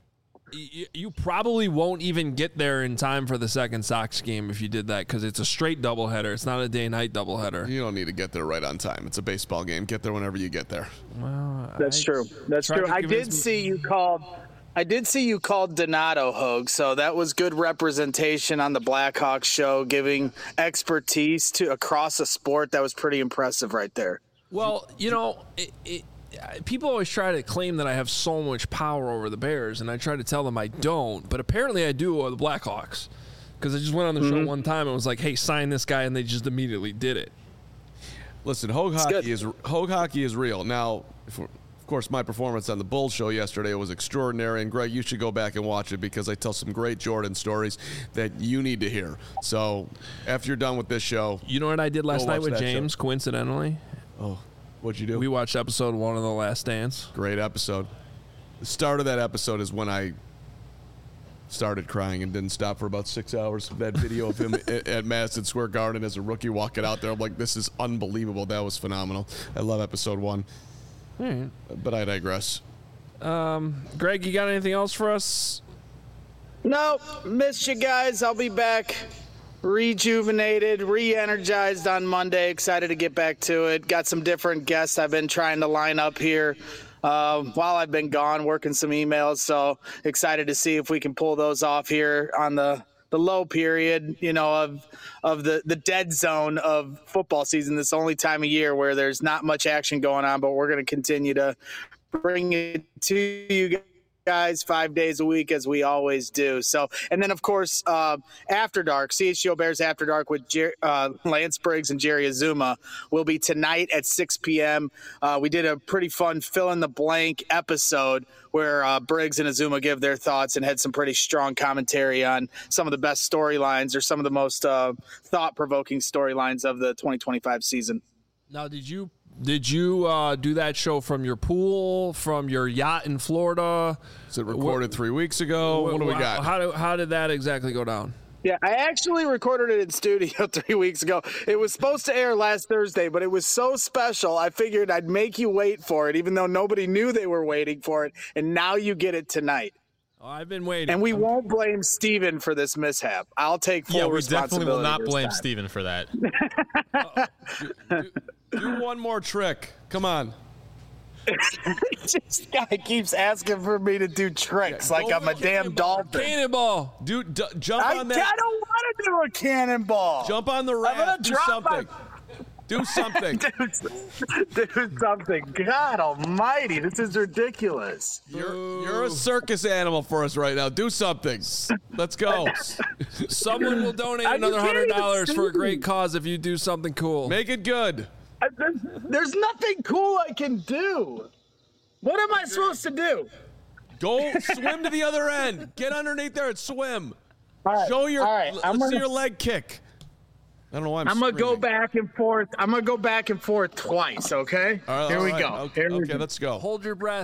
you probably won't even get there in time for the second Sox game if you did that because it's a straight doubleheader. It's not a day-night doubleheader. You don't need to get there right on time. It's a baseball game. Get there whenever you get there. Well, that's true. That's true. I did see you called Donato, Hogue, so that was good representation on the Blackhawks show, giving expertise to across a sport. That was pretty impressive right there. Well, people always try to claim that I have so much power over the Bears, and I try to tell them I don't, but apparently I do over the Blackhawks because I just went on the show one time and was like, hey, sign this guy, and they just immediately did it. Listen, Hogue hockey is real. Now, of course, my performance on the Bulls show yesterday was extraordinary, and Greg, you should go back and watch it because I tell some great Jordan stories that you need to hear. So after you're done with this show, you know what I did last night with James, coincidentally? Oh, what'd you do? We watched episode 1 of The Last Dance. Great episode. The start of that episode is when I started crying and didn't stop for about 6 hours. That video of him at Madison Square Garden as a rookie walking out there, I'm like, this is unbelievable. That was phenomenal. I love episode 1. Right. But I digress. Greg, you got anything else for us? No, missed you guys. I'll be back rejuvenated, re-energized on Monday. Excited to get back to it. Got some different guests I've been trying to line up here while I've been gone, working some emails. So excited to see if we can pull those off here on the low period, of the dead zone of football season. This only time of year where there's not much action going on, but we're going to continue to bring it to you guys 5 days a week as we always do. So, and then of course, After Dark, CHGO Bears After Dark with Lance Briggs and Jerry Azuma will be tonight at 6 p.m. We did a pretty fun fill in the blank episode where Briggs and Azuma give their thoughts and had some pretty strong commentary on some of the best storylines or some of the most thought-provoking storylines of the 2025 season. Now, did you do that show from your pool, from your yacht in Florida? Is it recorded 3 weeks ago? What do we got? How did that exactly go down? Yeah, I actually recorded it in studio 3 weeks ago. It was supposed to air last Thursday, but it was so special, I figured I'd make you wait for it, even though nobody knew they were waiting for it, and now you get it tonight. Oh, I've been waiting. And we won't blame Steven for this mishap. I'll take full responsibility. Yeah, we definitely will not blame Steven for that. Do one more trick. Come on. This guy keeps asking for me to do tricks like I'm a damn dolphin. Cannonball. Dude, jump on that. I don't want to do a cannonball. Jump on the raft. Do something. Do something. Do something. God almighty, this is ridiculous. You're a circus animal for us right now. Do something. Let's go. Someone will donate another $100 for a great cause if you do something cool. Make it good. There's nothing cool I can do. What am I supposed to do? Go swim to the other end. Get underneath there and swim. All right, Show your. all right, Let's see your leg kick. I don't know why I'm gonna go screaming. back and forth. I'm gonna go back and forth twice. Okay. All right, Here all we right. go. Okay, Here we okay, go. let's go. Hold your breath.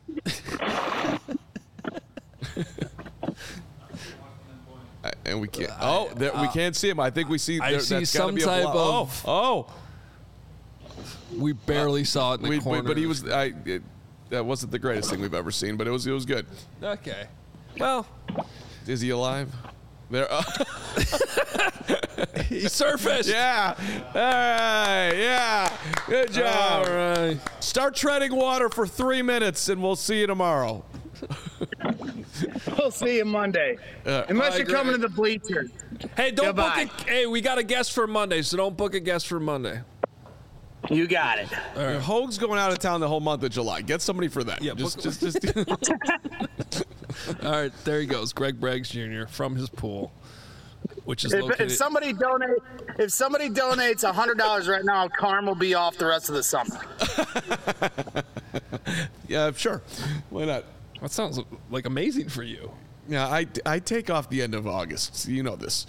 And we can't. Oh, we can't see him. I think we see. I see that's some gotta be a type block. of- Oh. We barely saw it in the corner. But he was. That wasn't the greatest thing we've ever seen, but it was good. Okay. Well, Is he alive? There. he surfaced. Yeah. All right. Yeah. Good job. All right. Start treading water for 3 minutes, and we'll see you tomorrow. We'll see you Monday. Unless you're coming to the bleachers. Hey, don't Goodbye. book it. Hey, we got a guest for Monday, so don't book a guest for Monday. You got it. Hoag's going out of town the whole month of July. Get somebody for that. Yeah, just. All right, there he goes, Greg Braggs Jr. from his pool, which is located. If somebody donates $100 right now, Carm will be off the rest of the summer. Yeah, sure. Why not? That sounds like amazing for you. Yeah, I take off the end of August. You know this.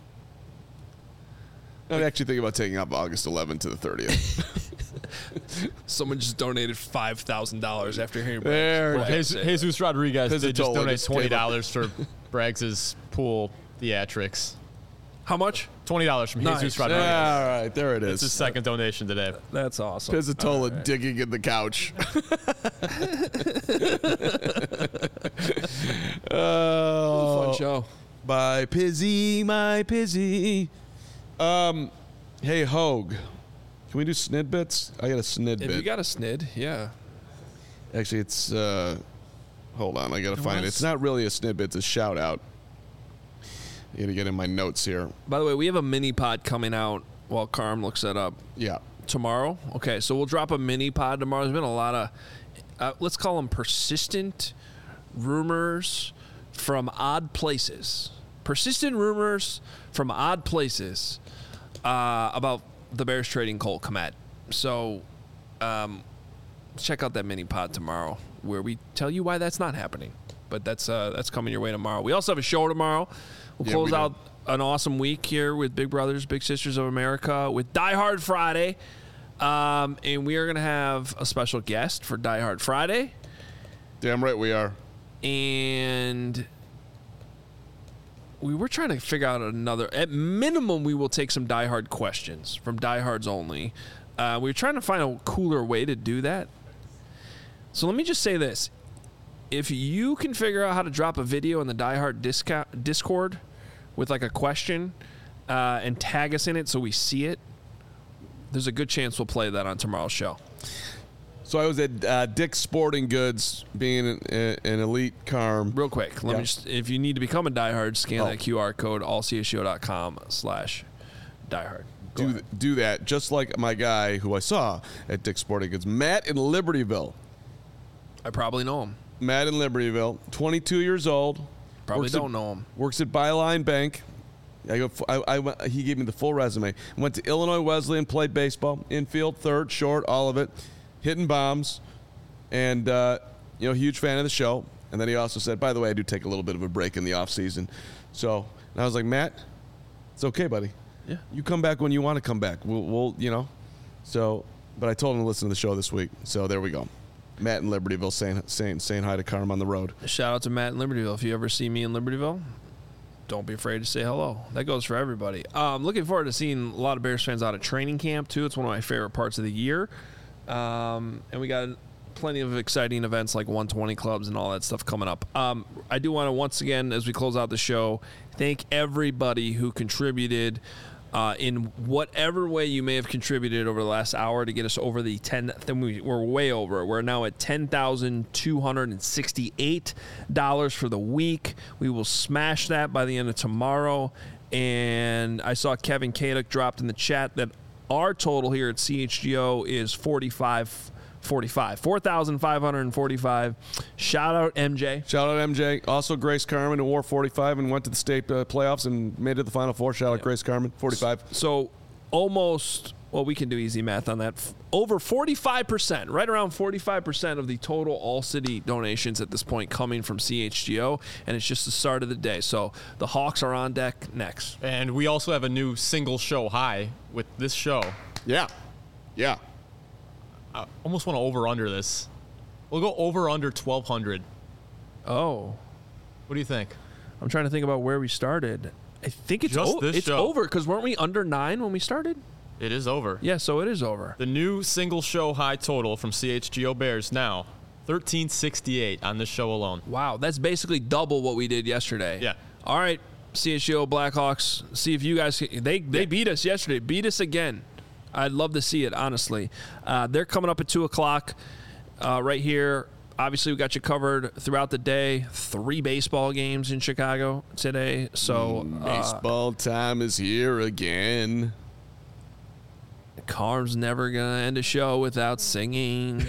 I'm actually thinking about taking off August 11th to the 30th. Someone just donated $5,000 after hearing. There it Braggs say Jesus Rodriguez did just Pizzatola donate just gave $20 for Braggs' pool theatrics. How much? $20 from Nice. Jesus Yeah, Rodriguez. all right, there it It's his is. second donation today. That's awesome. Pizzatola digging in the couch. Fun show. My Pizzy, my Pizzy. Hey, Hoag. Can we do snid bits? I got a snid If bit. you got a snid, yeah. Actually, it's hold on, I gotta find it. It's not really a snid bit, it's a shout out. I gotta get in my notes here. By the way, we have a mini pod coming out while Carm looks that up Yeah. tomorrow. Okay, so we'll drop a mini pod tomorrow. There's been a lot of, let's call them persistent rumors from odd places. Persistent rumors from odd places about the Bears trading Cole Kmet. So check out that mini pod tomorrow where we tell you why that's not happening. But that's coming your way tomorrow. We also have a show tomorrow. We'll close out an awesome week here with Big Brothers, Big Sisters of America with Die Hard Friday. And we are going to have a special guest for Die Hard Friday. Damn right we are. And we were trying to figure out another. At minimum, we will take some Die Hard questions from Die Hards only. We were trying to find a cooler way to do that. So let me just say this. If you can figure out how to drop a video in the Die Hard Discord with like a question and tag us in it so we see it, there's a good chance we'll play that on tomorrow's show. So I was at Dick's Sporting Goods, being an elite Carm. Real quick, let me just, if you need to become a diehard, scan that QR code, allcshow.com/diehard. Do that, just like my guy who I saw at Dick's Sporting Goods, Matt in Libertyville. I probably know him. Matt in Libertyville, 22 years old. Probably don't know him. Works at Byline Bank. He gave me the full resume. Went to Illinois Wesleyan, played baseball, infield, third, short, all of it, hitting bombs, and huge fan of the show. And then he also said, by the way, I do take a little bit of a break in the off season. So, and I was like, Matt, it's okay, buddy. Yeah. You come back when you want to come back. We'll. So, but I told him to listen to the show this week. So there we go. Matt in Libertyville saying hi to Carm on the road. Shout out to Matt in Libertyville. If you ever see me in Libertyville, don't be afraid to say hello. That goes for everybody. Looking forward to seeing a lot of Bears fans out at training camp, too. It's one of my favorite parts of the year. And we got plenty of exciting events like 120 clubs and all that stuff coming up. I do want to, once again, as we close out the show, thank everybody who contributed in whatever way you may have contributed over the last hour to get us over the 10. We're way over. We're now at $10,268 for the week. We will smash that by the end of tomorrow. And I saw Kevin Kaduk dropped in the chat that our total here at CHGO is 4,545. Shout out MJ. Shout out MJ. Also Grace Carmen, who wore 45 and went to the state playoffs and made it to the Final Four. Shout out Grace Carmen, 45. So almost, well, we can do easy math on that. Over 45%, right around 45% of the total all-city donations at this point coming from CHGO, and it's just the start of the day. So the Hawks are on deck next. And we also have a new single show high with this show. Yeah. I almost want to over-under this. We'll go over-under 1,200. Oh. What do you think? I'm trying to think about where we started. I think it's show. over, because weren't we under 9 when we started? It is over. Yeah, so it is over. The new single show high total from CHGO Bears now, 1,368 on this show alone. Wow, that's basically double what we did yesterday. Yeah. All right, CHGO Blackhawks, see if you guys – they beat us yesterday. Beat us again. I'd love to see it, honestly. They're coming up at 2 o'clock right here. Obviously, we got you covered throughout the day. 3 baseball games in Chicago today. So baseball time is here again. Carm's never going to end a show without singing.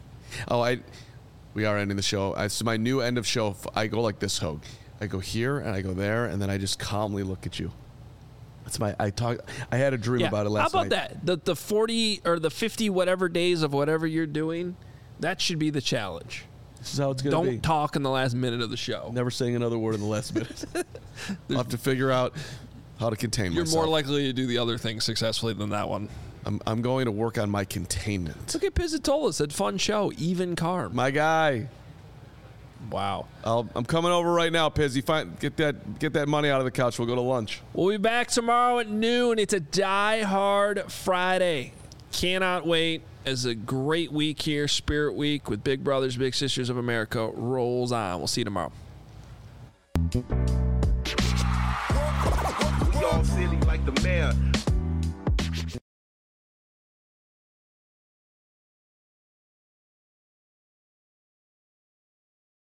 We are ending the show. It's my new end of show. I go like this, Hogue. I go here and I go there, and then I just calmly look at you. That's I had a dream about it last night. How about that? The 40 or the 50 whatever days of whatever you're doing, that should be the challenge. This is how it's going to be. Don't talk in the last minute of the show. Never saying another word in the last minute. I'll have to figure out how to contain myself. You're more likely to do the other thing successfully than that one. I'm going to work on my containment. Look at Pizzatola. Said fun show. Even Carm. My guy. Wow. I'm coming over right now, Pizzy. Get that money out of the couch. We'll go to lunch. We'll be back tomorrow at noon. It's a Die Hard Friday. Cannot wait. As a great week here, Spirit Week with Big Brothers, Big Sisters of America rolls on. We'll see you tomorrow. We all silly like the mayor.